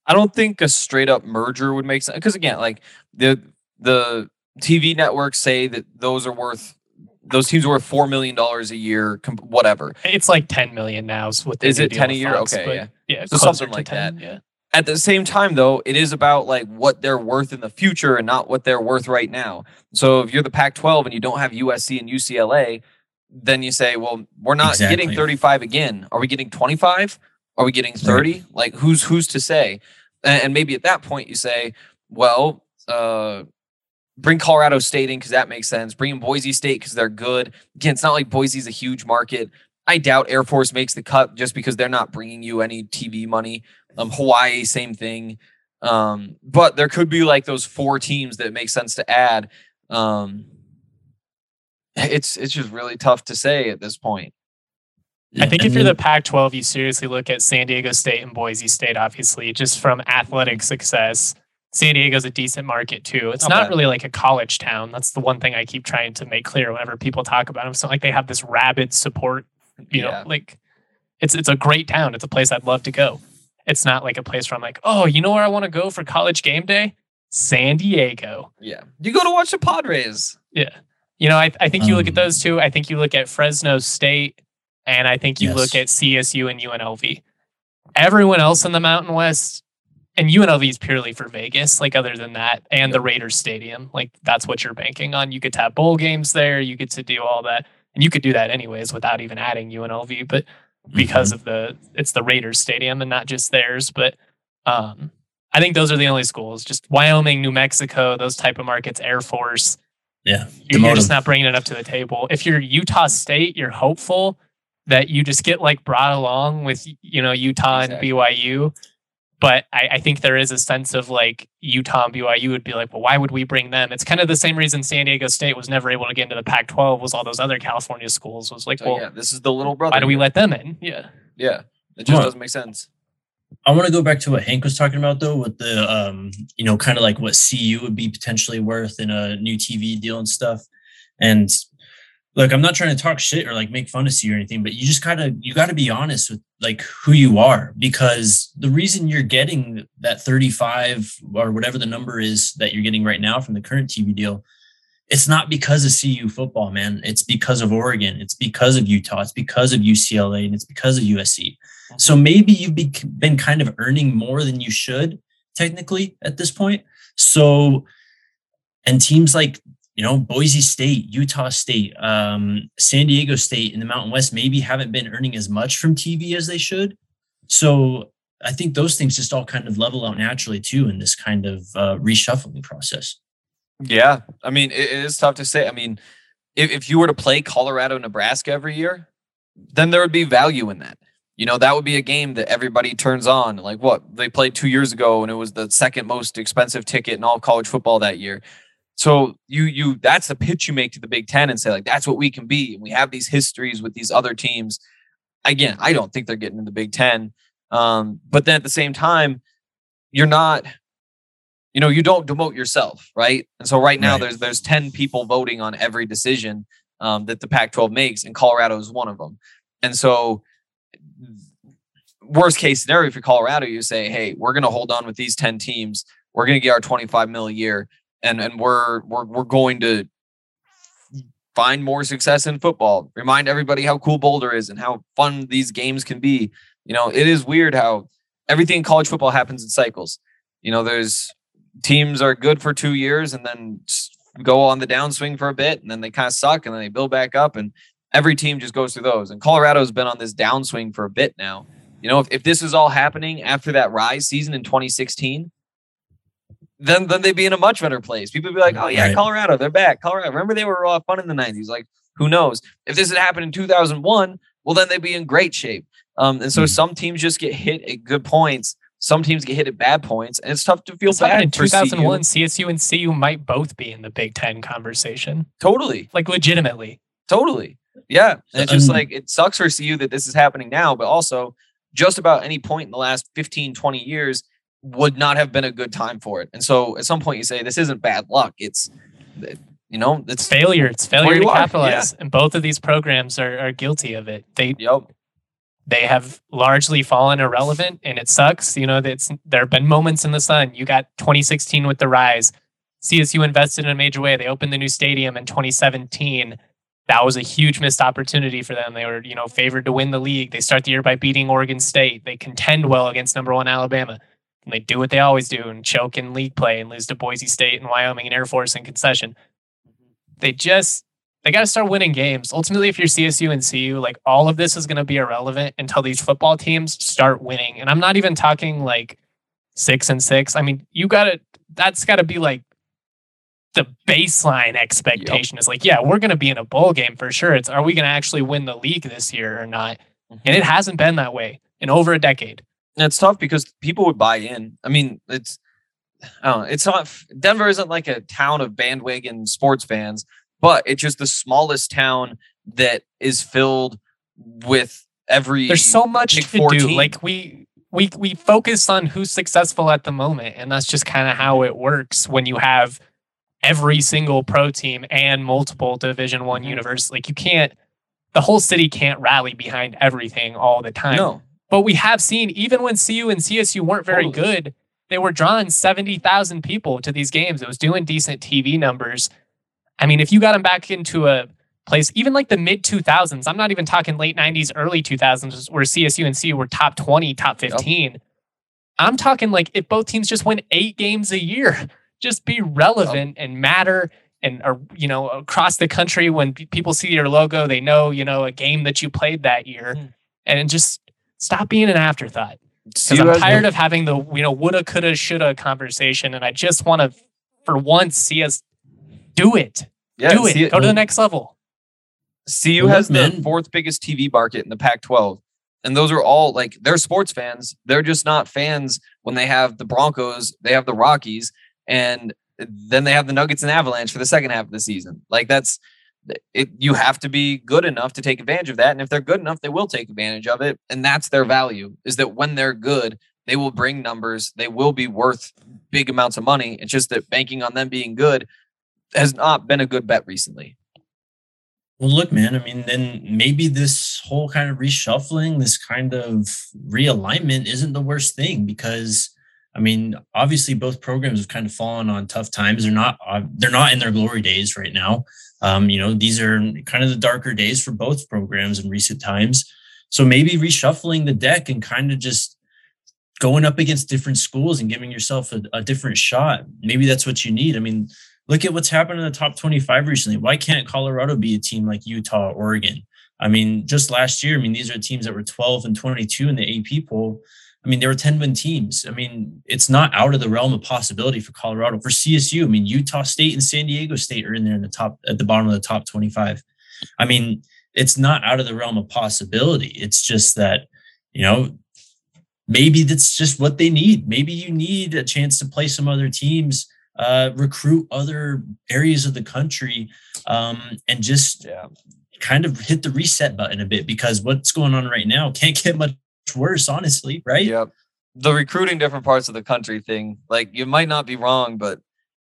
I don't think a straight up merger would make sense. Because again, like the the T V networks say that those are worth those teams are worth four million dollars a year, whatever. It's like ten million now. So what is it ten a year? Fox, okay, yeah, yeah, so something like ten, that. Yeah. At the same time, though, it is about like what they're worth in the future and not what they're worth right now. So if you're the Pac twelve and you don't have U S C and U C L A, then you say, well, we're not exactly. getting thirty-five again. Are we getting twenty-five? Are we getting thirty? Right. Like who's who's to say? And, and maybe at that point you say, well, uh, bring Colorado State in because that makes sense. Bring in Boise State because they're good. Again, it's not like Boise's a huge market. I doubt Air Force makes the cut just because they're not bringing you any T V money. Um, Hawaii, same thing. Um, but there could be like those four teams that make sense to add. Um, it's it's just really tough to say at this point. I think if you're the Pac twelve, you seriously look at San Diego State and Boise State, obviously, just from athletic success. San Diego's a decent market too. It's not, not really like a college town. That's the one thing I keep trying to make clear whenever people talk about them. It's not like they have this rabid support, you yeah. know, like it's it's a great town. It's a place I'd love to go. It's not like a place where I'm like, oh, you know where I want to go for college game day? San Diego. Yeah. You go to watch the Padres. Yeah. You know, I, I think you um, look at those two. I think you look at Fresno State, and I think you yes. look at C S U and U N L V. Everyone else in the Mountain West, and U N L V is purely for Vegas, like other than that, and the Raiders Stadium. Like that's what you're banking on. You get to have bowl games there. You get to do all that. And you could do that anyways without even adding U N L V. But because mm-hmm. of the, it's the Raiders Stadium and not just theirs. But um, I think those are the only schools. Just Wyoming, New Mexico, those type of markets, Air Force. Yeah. You're, you're just not bringing it up to the table. If you're Utah State, you're hopeful that you just get like brought along with, you know, Utah exactly. and B Y U. But I, I think there is a sense of like Utah and B Y U would be like, well, why would we bring them? It's kind of the same reason San Diego State was never able to get into the Pac twelve was all those other California schools was like, so, well, yeah, this is the little brother. Why do we let them in? Yeah. Yeah. It just doesn't make sense. I want to go back to what Hank was talking about though, with the, um, you know, kind of like what C U would be potentially worth in a new T V deal and stuff. And look, I'm not trying to talk shit or like make fun of C U or anything, but you just gotta, you gotta be honest with like who you are, because the reason you're getting that thirty-five or whatever the number is that you're getting right now from the current T V deal, it's not because of C U football, man. It's because of Oregon. It's because of Utah. It's because of U C L A, and it's because of U S C. So maybe you've been kind of earning more than you should technically at this point. So, and teams like, you know, Boise State, Utah State, um, San Diego State in the Mountain West maybe haven't been earning as much from T V as they should. So I think those things just all kind of level out naturally too in this kind of uh, reshuffling process. Yeah. I mean, it, it is tough to say. I mean, if, if you were to play Colorado, Nebraska every year, then there would be value in that. You know, that would be a game that everybody turns on. Like what they played two years ago, and it was the second most expensive ticket in all of college football that year. So you you that's the pitch you make to the Big Ten and say, like, that's what we can be. And we have these histories with these other teams. Again, I don't think they're getting in the Big Ten. Um, but then at the same time, you're not, you know, you don't demote yourself, right? And so right now right. there's there's ten people voting on every decision um, that the Pac twelve makes, and Colorado is one of them. And so worst case scenario for Colorado, you say, hey, we're going to hold on with these ten teams. We're going to get our twenty-five mil a year. And and we're we're we're going to find more success in football. Remind everybody how cool Boulder is and how fun these games can be. You know, it is weird how everything in college football happens in cycles. You know, there's teams are good for two years and then go on the downswing for a bit, and then they kind of suck, and then they build back up. And every team just goes through those. And Colorado's been on this downswing for a bit now. You know, if, if this is all happening after that Rise season in twenty sixteen, then then they'd be in a much better place. People would be like, oh, yeah, right. Colorado, they're back. Colorado, remember they were all fun in the nineties. Like, who knows? If this had happened in two thousand one, well, then they'd be in great shape. Um, and so mm. some teams just get hit at good points. Some teams get hit at bad points. And it's tough to feel it's bad in two thousand one, C S U and C U might both be in the Big Ten conversation. Totally. Like, legitimately. Totally. Yeah. And it's just um, like, it sucks for C U that this is happening now, but also just about any point in the last fifteen, twenty years would not have been a good time for it. And so at some point you say, this isn't bad luck. It's, you know, it's failure. It's failure to capitalize. Yeah. And both of these programs are, are guilty of it. They, yep. they have largely fallen irrelevant, and it sucks. You know, it's, there have been moments in the sun. You got twenty sixteen with the Rise. C S U invested in a major way. They opened the new stadium in twenty seventeen. That was a huge missed opportunity for them. They were, you know, favored to win the league. They start the year by beating Oregon State. They contend well against number one Alabama. And they do what they always do and choke in league play and lose to Boise State and Wyoming and Air Force in concession. They just, they got to start winning games. Ultimately, if you're C S U and C U, like all of this is going to be irrelevant until these football teams start winning. And I'm not even talking like six and six. I mean, you got to, that's got to be like the baseline expectation. Yep. Is like, yeah, we're going to be in a bowl game for sure. It's, are we going to actually win the league this year or not? Mm-hmm. And it hasn't been that way in over a decade. And it's tough because people would buy in. I mean, it's, I don't know, it's not, Denver isn't like a town of bandwagon sports fans, but it's just the smallest town that is filled with every. There's so much to do. Like we, we, we focus on who's successful at the moment. And that's just kind of how it works when you have every single pro team and multiple Division One mm-hmm. universities. Like you can't, the whole city can't rally behind everything all the time. No. But we have seen, even when C U and C S U weren't very totally. good, they were drawing seventy thousand people to these games. It was doing decent T V numbers. I mean, if you got them back into a place, even like the mid two thousands, I'm not even talking late nineties, early two thousands, where C S U and C U were top twenty, top fifteen. Yep. I'm talking like if both teams just win eight games a year, just be relevant yep. and matter. And, or, you know, across the country, when p- people see your logo, they know, you know, a game that you played that year. Mm. And just stop being an afterthought. Because I'm tired of having the, you know, woulda, coulda, shoulda conversation. And I just want to, for once, see us do it. Yeah, do it. it. Go to the next level. C U has the fourth biggest T V market in the Pac twelve. And those are all like, they're sports fans. They're just not fans when they have the Broncos, they have the Rockies, and then they have the Nuggets and Avalanche for the second half of the season. Like that's it. You have to be good enough to take advantage of that. And if they're good enough, they will take advantage of it. And that's their value, is that when they're good, they will bring numbers. They will be worth big amounts of money. It's just that banking on them being good has not been a good bet recently. Well, look, man, I mean, then maybe this whole kind of reshuffling, this kind of realignment isn't the worst thing, because I mean, obviously both programs have kind of fallen on tough times. They're not, uh, they're not in their glory days right now. Um, you know, these are kind of the darker days for both programs in recent times. So maybe reshuffling the deck and kind of just going up against different schools and giving yourself a, a different shot. Maybe that's what you need. I mean, look at what's happened in the top twenty-five recently. Why can't Colorado be a team like Utah, Oregon? I mean, just last year, I mean, these are teams that were twelve and twenty-two in the A P poll. I mean, there were ten-win teams. I mean, it's not out of the realm of possibility for Colorado. For C S U, I mean, Utah State and San Diego State are in there in the top, at the bottom of the top twenty-five. I mean, it's not out of the realm of possibility. It's just that, you know, maybe that's just what they need. Maybe you need a chance to play some other teams, uh, recruit other areas of the country, um, and just yeah. kind of hit the reset button a bit, because what's going on right now can't get much worse, honestly, right? Yep. The recruiting different parts of the country thing, like you might not be wrong, but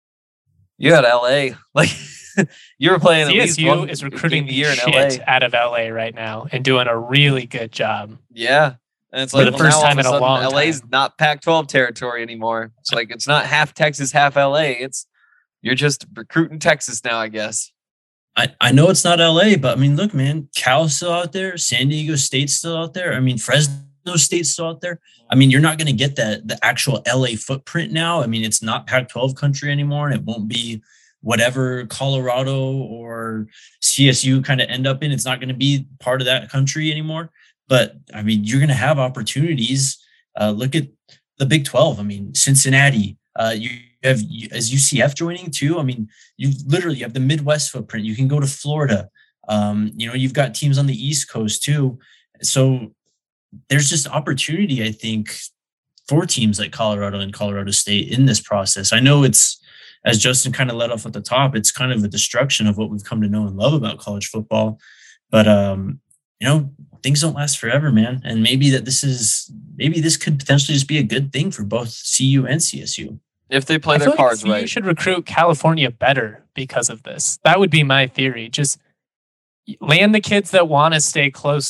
you had L A, like you were playing. C S U at least one is recruiting the year in L A out of L A right now and doing a really good job. Yeah, and it's for like the well, first time in a long time. L A's not Pac twelve territory anymore. It's like it's not half Texas, half L A. It's you're just recruiting Texas now, I guess. I, I know it's not L A, but I mean, look, man, Cal's still out there. San Diego State's still out there. I mean, Fresno State's still out there. I mean, you're not going to get that the actual L A footprint now. I mean, it's not Pac twelve country anymore, and it won't be whatever Colorado or C S U kind of end up in. It's not going to be part of that country anymore. But I mean, you're going to have opportunities. Uh, look at the Big twelve. I mean, Cincinnati. Uh, you have as U C F joining too. I mean, you literally have the Midwest footprint. You can go to Florida. Um, you know, you've got teams on the East Coast too. So there's just opportunity, I think, for teams like Colorado and Colorado State in this process. I know it's, as Justin kind of led off at the top, it's kind of a destruction of what we've come to know and love about college football. But, um, you know, things don't last forever, man. And maybe that this is, maybe this could potentially just be a good thing for both C U and C S U. If they play their cards right. You should recruit California better because of this. That would be my theory. Just land the kids that want to stay close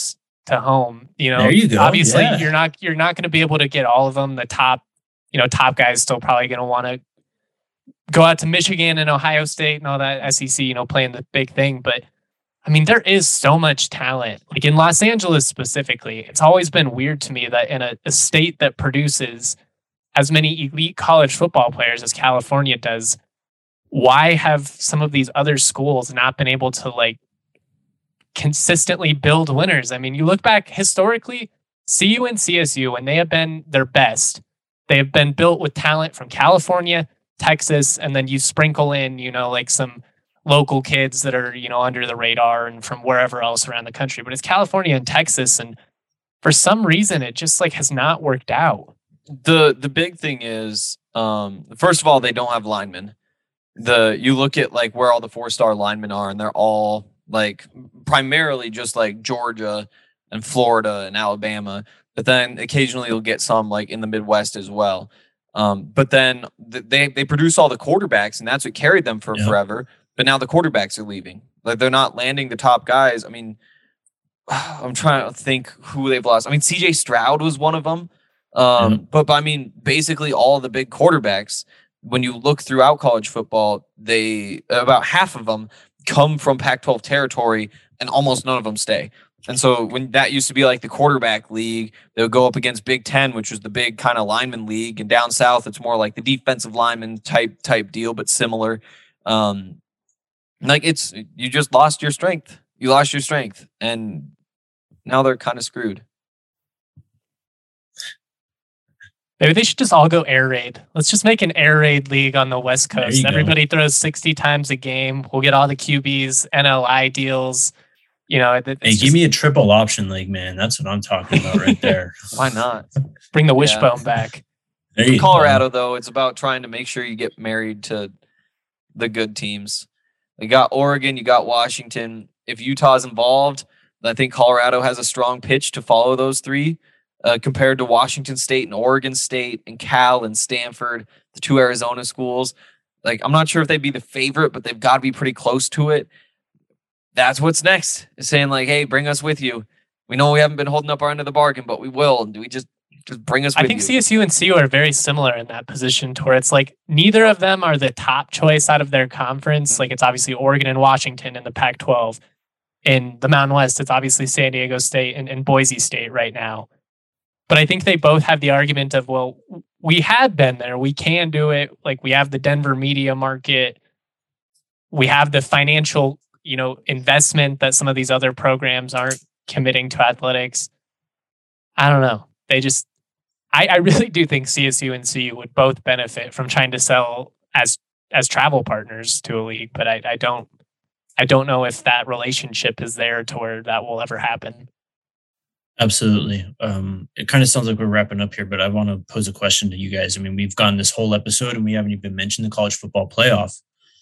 to home. You know, there you go. Obviously, yeah. you're not you're not going to be able to get all of them. The top, you know, top guys still probably going to want to go out to Michigan and Ohio State and all that S E C, you know, playing the big thing. But I mean, there is so much talent. Like in Los Angeles specifically, it's always been weird to me that in a, a state that produces as many elite college football players as California does, why have some of these other schools not been able to like consistently build winners? I mean, you look back historically, C U and C S U, when they have been their best, they have been built with talent from California, Texas, and then you sprinkle in, you know, like some local kids that are, you know, under the radar and from wherever else around the country. But it's California and Texas, and for some reason, it just like has not worked out. The the big thing is, um, first of all, they don't have linemen. The you look at like where all the four star linemen are, and they're all like primarily just like Georgia and Florida and Alabama. But then occasionally you'll get some like in the Midwest as well. Um, but then th- they they produce all the quarterbacks, and that's what carried them for Yep. forever. But now the quarterbacks are leaving. Like they're not landing the top guys. I mean, I'm trying to think who they've lost. I mean, C J Stroud was one of them. Um, Mhm. but, but I mean, basically all the big quarterbacks, when you look throughout college football, they about half of them come from Pac twelve territory, and almost none of them stay. And so when that used to be like the quarterback league, they would go up against Big Ten, which was the big kind of lineman league. And down south, it's more like the defensive lineman type type deal, but similar. Um, like it's you just lost your strength. You lost your strength, and now they're kind of screwed. Maybe they should just all go air raid. Let's just make an air raid league on the West There Coast. you go. Everybody throws sixty times a game. We'll get all the Q Bs, N L I deals. You know, it, it's Hey, just give me a triple option league, man. That's what I'm talking about right there. Why not? bring the Yeah. wishbone back. There you go. Colorado, though, it's about trying to make sure you get married to the good teams. You got Oregon, you got Washington. If Utah's involved, I think Colorado has a strong pitch to follow those three uh, compared to Washington State and Oregon State and Cal and Stanford, the two Arizona schools. Like, I'm not sure if they'd be the favorite, but they've got to be pretty close to it. That's what's next. Is saying like, hey, bring us with you. We know we haven't been holding up our end of the bargain, but we will. And do we just just bring us with I think you? C S U and C U are very similar in that position to where it's like neither of them are the top choice out of their conference. Like it's obviously Oregon and Washington in the Pac twelve. In the Mountain West, it's obviously San Diego State and, and Boise State right now. But I think they both have the argument of, well, we had been there. We can do it. Like we have the Denver media market. We have the financial, you know, investment that some of these other programs aren't committing to athletics. I don't know. They just, I, I really do think C S U and C U would both benefit from trying to sell as as travel partners to a league, but I, I don't, I don't know if that relationship is there to where that will ever happen. Absolutely. Um, it kind of sounds like we're wrapping up here, but I want to pose a question to you guys. I mean, we've gone this whole episode and we haven't even mentioned the college football playoff.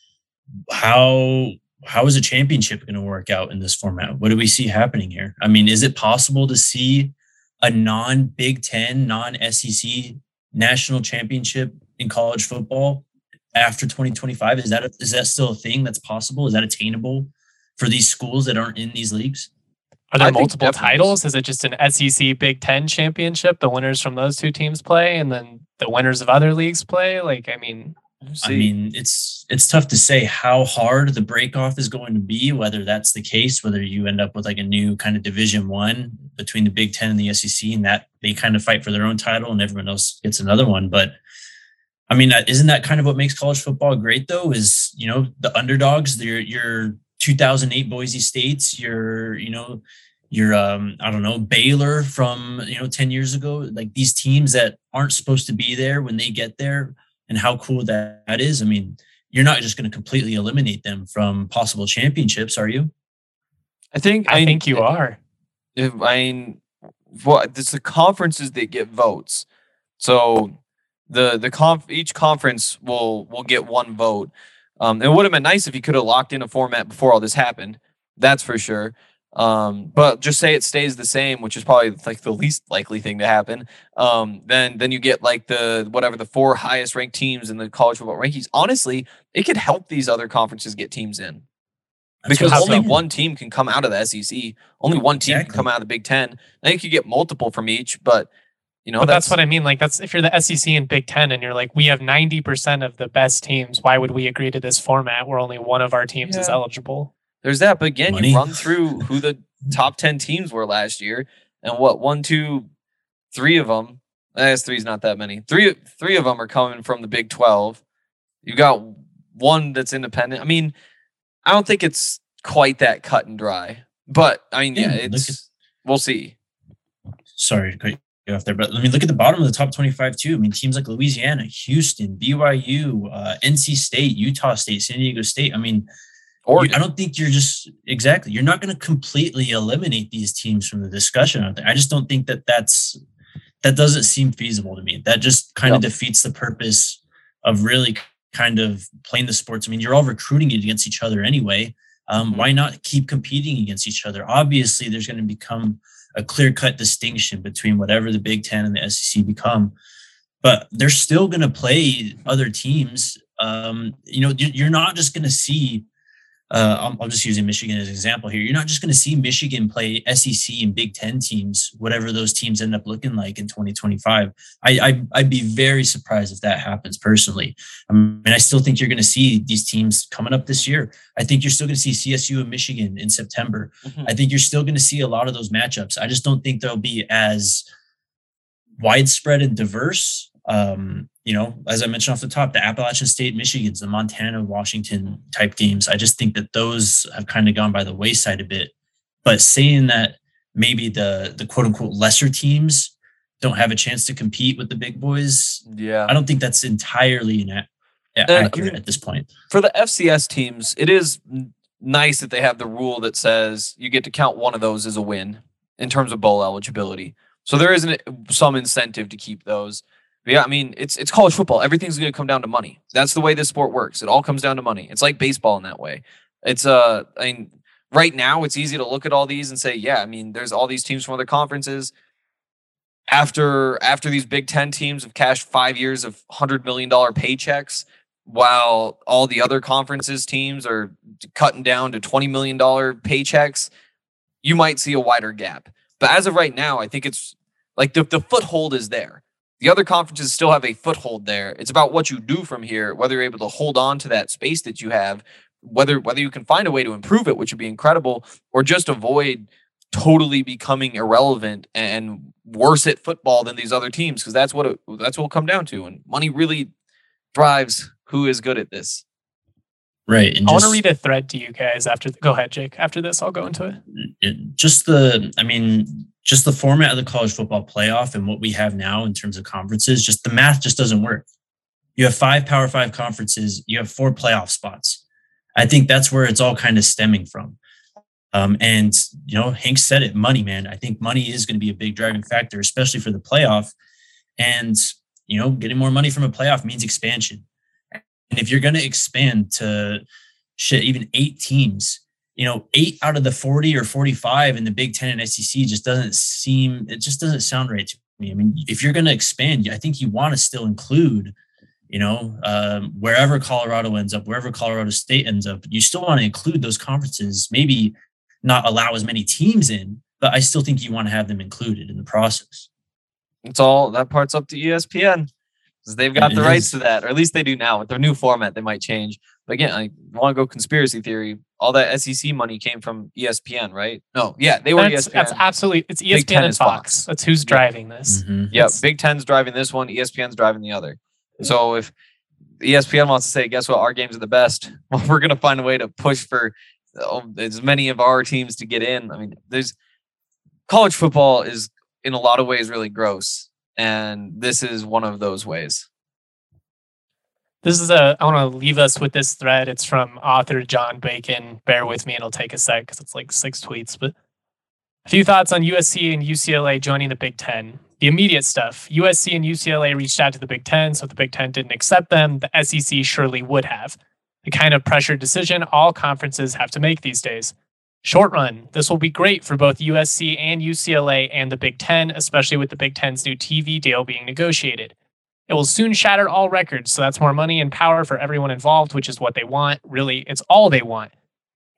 How how is a championship going to work out in this format? What do we see happening here? I mean, is it possible to see a non-Big Ten, non-S E C national championship in college football after twenty twenty-five? Is that a, is that still a thing that's possible? Is that attainable for these schools that aren't in these leagues? Are there I think multiple definitely. titles? Is it just an S E C Big Ten championship? The winners from those two teams play, and then the winners of other leagues play? Like, I mean, I mean, it's it's tough to say how hard the breakoff is going to be, whether that's the case, whether you end up with like a new kind of Division One between the Big Ten and the S E C, and that they kind of fight for their own title and everyone else gets another one. But I mean, isn't that kind of what makes college football great, though? Is, you know, the underdogs, your your two thousand eight Boise States, your, you know, your um, I don't know, Baylor from, you know, ten years ago, like these teams that aren't supposed to be there when they get there. And how cool that, that is. I mean, you're not just going to completely eliminate them from possible championships, are you? I think I think you are. If, I mean, well, it's the conferences that get votes. So the the conf each conference will will get one vote. Um, it would have been nice if you could have locked in a format before all this happened. That's for sure. Um, but just say it stays the same, which is probably like the least likely thing to happen. Um, then then you get like the whatever the four highest ranked teams in the college football rankings. Honestly, it could help these other conferences get teams in. That's because what I'm only saying. one team can come out of the S E C. Only one team Exactly. can come out of the Big Ten. I think you get multiple from each, but you know But that's, that's what I mean. Like, that's if you're the S E C and Big Ten and you're like, we have ninety percent of the best teams. Why would we agree to this format where only one of our teams is Yeah. eligible? there's that. But again, Money. you run through who the top ten teams were last year, and what one, two, three of them. I guess three's not that many. Three, three of them are coming from the Big twelve. You got one that's independent. I mean, I don't think it's quite that cut and dry, but I mean, yeah, Yeah, look it's at- we'll see. Sorry to cut you off there, but I mean, look at the bottom of the top twenty-five too. I mean, teams like Louisiana, Houston, B Y U, uh, N C State, Utah State, San Diego State. I mean, Oregon. you- I don't think you're just exactly. You're not going to completely eliminate these teams from the discussion. I don't think- I just don't think that that's that doesn't seem feasible to me. That just kind of Yep. defeats the purpose of really kind of playing the sports. I mean, you're all recruiting it against each other anyway. Um, Mhm. Why not keep competing against each other? Obviously, there's going to become a clear-cut distinction between whatever the Big Ten and the S E C become, but they're still going to play other teams. Um, you know, you- you're not just going to see. Uh, I'm, I'm just using Michigan as an example here. You're not just going to see Michigan play S E C and Big Ten teams, whatever those teams end up looking like in twenty twenty-five. I, I I'd be very surprised if that happens personally. I mean, I still think you're going to see these teams coming up this year. I think you're still going to see C S U and Michigan in September. Mhm. I think you're still going to see a lot of those matchups. I just don't think they'll be as widespread and diverse. Um, you know, as I mentioned off the top, the Appalachian State, Michigans, the Montana, Washington type games. I just think that those have kind of gone by the wayside a bit. But saying that maybe the the quote unquote lesser teams don't have a chance to compete with the big boys, Yeah. I don't think that's entirely ina- I accurate mean, at this point. For the F C S teams, it is n- nice that they have the rule that says you get to count one of those as a win in terms of bowl eligibility. So there is an, some incentive to keep those. But yeah, I mean, it's it's college football. Everything's going to come down to money. That's the way this sport works. It all comes down to money. It's like baseball in that way. It's uh, I mean, right now it's easy to look at all these and say, yeah, I mean, there's all these teams from other conferences. After after these Big Ten teams have cashed five years of hundred million dollar paychecks, while all the other conferences teams are cutting down to twenty million dollar paychecks, you might see a wider gap. But as of right now, I think it's like the, the foothold is there. The other conferences still have a foothold there. It's about what you do from here, whether you're able to hold on to that space that you have, whether whether you can find a way to improve it, which would be incredible, or just avoid totally becoming irrelevant and worse at football than these other teams, because that's what it, that's what it'll come down to. And money really drives who is good at this. Right. And I want just, to read a thread to you guys after. Go ahead, Jake. After this, I'll go into it. it- just the, I mean, just the format of the college football playoff and what we have now in terms of conferences, just the math just doesn't work. You have five Power Five conferences. You have four playoff spots. I think that's where it's all kind of stemming from. Um, and, you know, Hank said it, money, man. I think money is going to be a big driving factor, especially for the playoff. And, you know, getting more money from a playoff means expansion. And if you're going to expand to shit, even eight teams, you know, eight out of the forty or forty-five in the Big Ten and S E C just doesn't seem, it just doesn't sound right to me. I mean, if you're going to expand, I think you want to still include, you know, um, wherever Colorado ends up, wherever Colorado State ends up, you still want to include those conferences, maybe not allow as many teams in, but I still think you want to have them included in the process. It's all, that part's up to E S P N, because they've got It the rights is. to that, or at least they do now. With their new format, they might change. But again, I want to go conspiracy theory. All that S E C money came from E S P N, right? No, yeah, they were That's, E S P N. that's absolutely. It's E S Big P N Ten and is Fox. Fox. That's who's Yeah. driving this. Mhm. Yep, It's- Big Ten's driving this one, E S P N's driving the other. So if E S P N wants to say, guess what, our games are the best, well, we're going to find a way to push for oh, as many of our teams to get in. I mean, there's college football is in a lot of ways really gross, and this is one of those ways. This is a. I want to leave us with this thread. It's from author John Bacon. Bear with me, it'll take a sec because it's like six tweets. But a few thoughts on U S C and U C L A joining the Big Ten. The immediate stuff: U S C and U C L A reached out to the Big Ten, so if the Big Ten didn't accept them, the S E C surely would have. The kind of pressured decision all conferences have to make these days. Short run: this will be great for both U S C and U C L A and the Big Ten, especially with the Big Ten's new T V deal being negotiated. It will soon shatter all records, so that's more money and power for everyone involved, which is what they want. Really, it's all they want.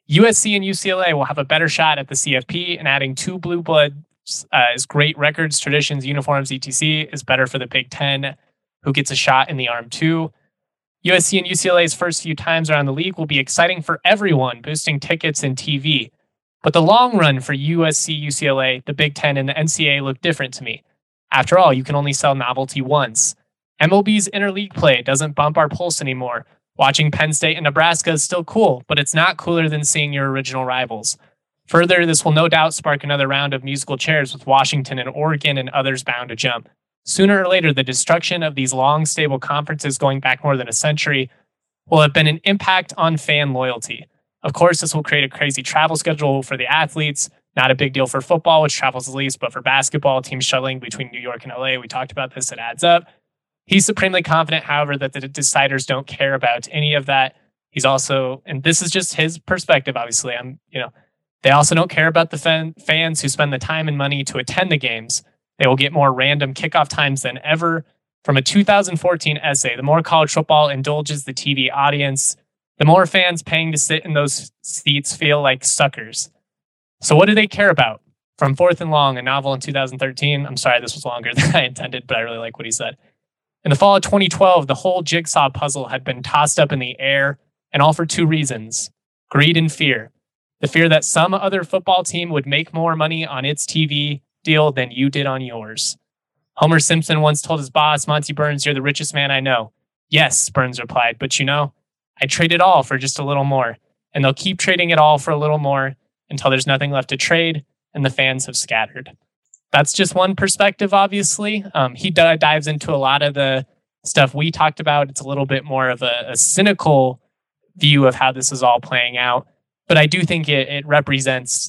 U S C and U C L A will have a better shot at the C F P, and adding two blue bloods uh, is great. Records, traditions, uniforms, et cetera is better for the Big Ten, who gets a shot in the arm too. U S C and U C L A's first few times around the league will be exciting for everyone, boosting tickets and T V. But the long run for U S C, U C L A, the Big Ten, and the N C A A look different to me. After all, you can only sell novelty once. M L B's interleague play doesn't bump our pulse anymore. Watching Penn State and Nebraska is still cool, but it's not cooler than seeing your original rivals. Further, this will no doubt spark another round of musical chairs with Washington and Oregon and others bound to jump. Sooner or later, the destruction of these long, stable conferences going back more than a century will have been an impact on fan loyalty. Of course, this will create a crazy travel schedule for the athletes. Not a big deal for football, which travels the least, but for basketball, teams shuttling between New York and L A, we talked about this, it adds up. He's supremely confident, however, that the deciders don't care about any of that. He's also, and this is just his perspective, obviously, I'm, you know, they also don't care about the fan, fans who spend the time and money to attend the games. They will get more random kickoff times than ever. From a two thousand fourteen essay, the more college football indulges the T V audience, the more fans paying to sit in those seats feel like suckers. So what do they care about? From Fourth and Long, a novel in two thousand thirteen. I'm sorry, this was longer than I intended, but I really like what he said. In the fall of twenty twelve, the whole jigsaw puzzle had been tossed up in the air, and all for two reasons: greed and fear. The fear that some other football team would make more money on its T V deal than you did on yours. Homer Simpson once told his boss, Monty Burns, "You're the richest man I know." "Yes," Burns replied, "but you know, I trade it all for just a little more." And they'll keep trading it all for a little more until there's nothing left to trade and the fans have scattered. That's just one perspective, obviously. Um, he d- dives into a lot of the stuff we talked about. It's a little bit more of a, a cynical view of how this is all playing out. But I do think it, it represents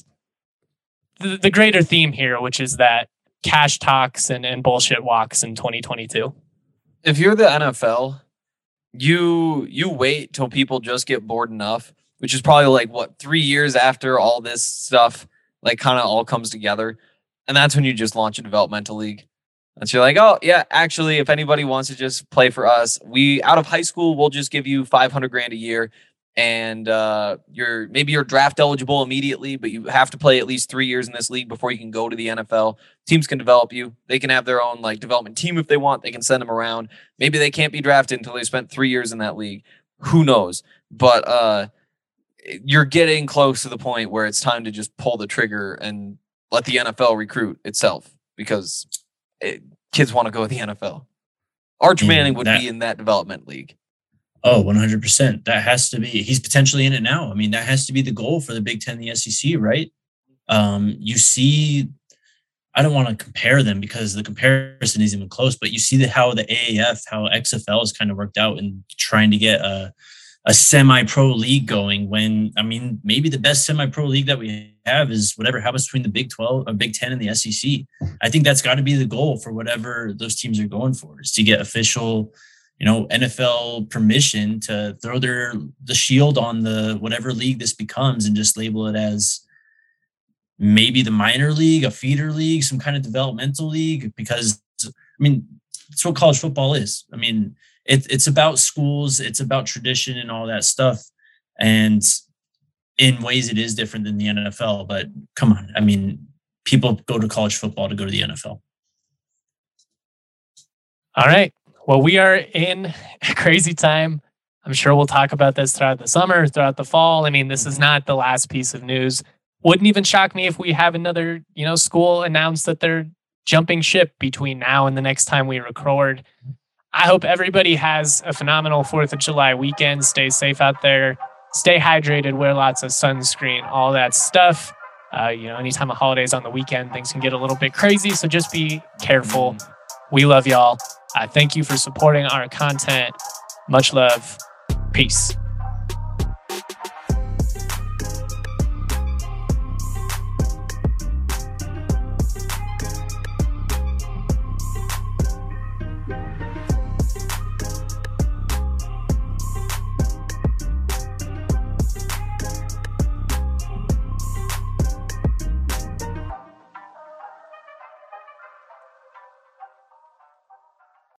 the, the greater theme here, which is that cash talks and, and bullshit walks in twenty twenty-two. If you're the N F L, you you wait till people just get bored enough, which is probably like, what, three years after all this stuff like kind of all comes together. And that's when you just launch a developmental league. And so you're like, oh, yeah, actually, if anybody wants to just play for us, we out of high school, we'll just give you five hundred grand a year. And uh, you're maybe you're draft eligible immediately, but you have to play at least three years in this league before you can go to the N F L. Teams can develop you. They can have their own like development team if they want. They can send them around. Maybe they can't be drafted until they spent three years in that league. Who knows? But uh, you're getting close to the point where it's time to just pull the trigger and let the N F L recruit itself, because it, kids want to go to the N F L. Arch Yeah, Manning would that- be in that development league. Oh, one hundred percent. That has to be, he's potentially in it now. I mean, that has to be the goal for the Big Ten and the S E C, right? Um, you see, I don't want to compare them because the comparison isn't even close, but you see the, how the A A F, how X F L has kind of worked out in trying to get a, a semi-pro league going when, I mean, maybe the best semi-pro league that we have is whatever happens between the Big twelve, or Big ten and the S E C. I think that's got to be the goal for whatever those teams are going for, is to get official, you know, N F L permission to throw their the shield on the whatever league this becomes and just label it as maybe the minor league, a feeder league, some kind of developmental league. Because, I mean, that's what college football is. I mean, it, it's about schools, it's about tradition and all that stuff. And in ways it is different than the N F L. But come on, I mean, people go to college football to go to the N F L. All right. Well, we are in a crazy time. I'm sure we'll talk about this throughout the summer, throughout the fall. I mean, this is not the last piece of news. Wouldn't even shock me if we have another, you know, school announce that they're jumping ship between now and the next time we record. I hope everybody has a phenomenal fourth of July weekend. Stay safe out there. Stay hydrated. Wear lots of sunscreen, all that stuff. Uh, you know, anytime a holiday's on the weekend, things can get a little bit crazy. So just be careful. We love y'all. Uh, thank you for supporting our content. Much love. Peace.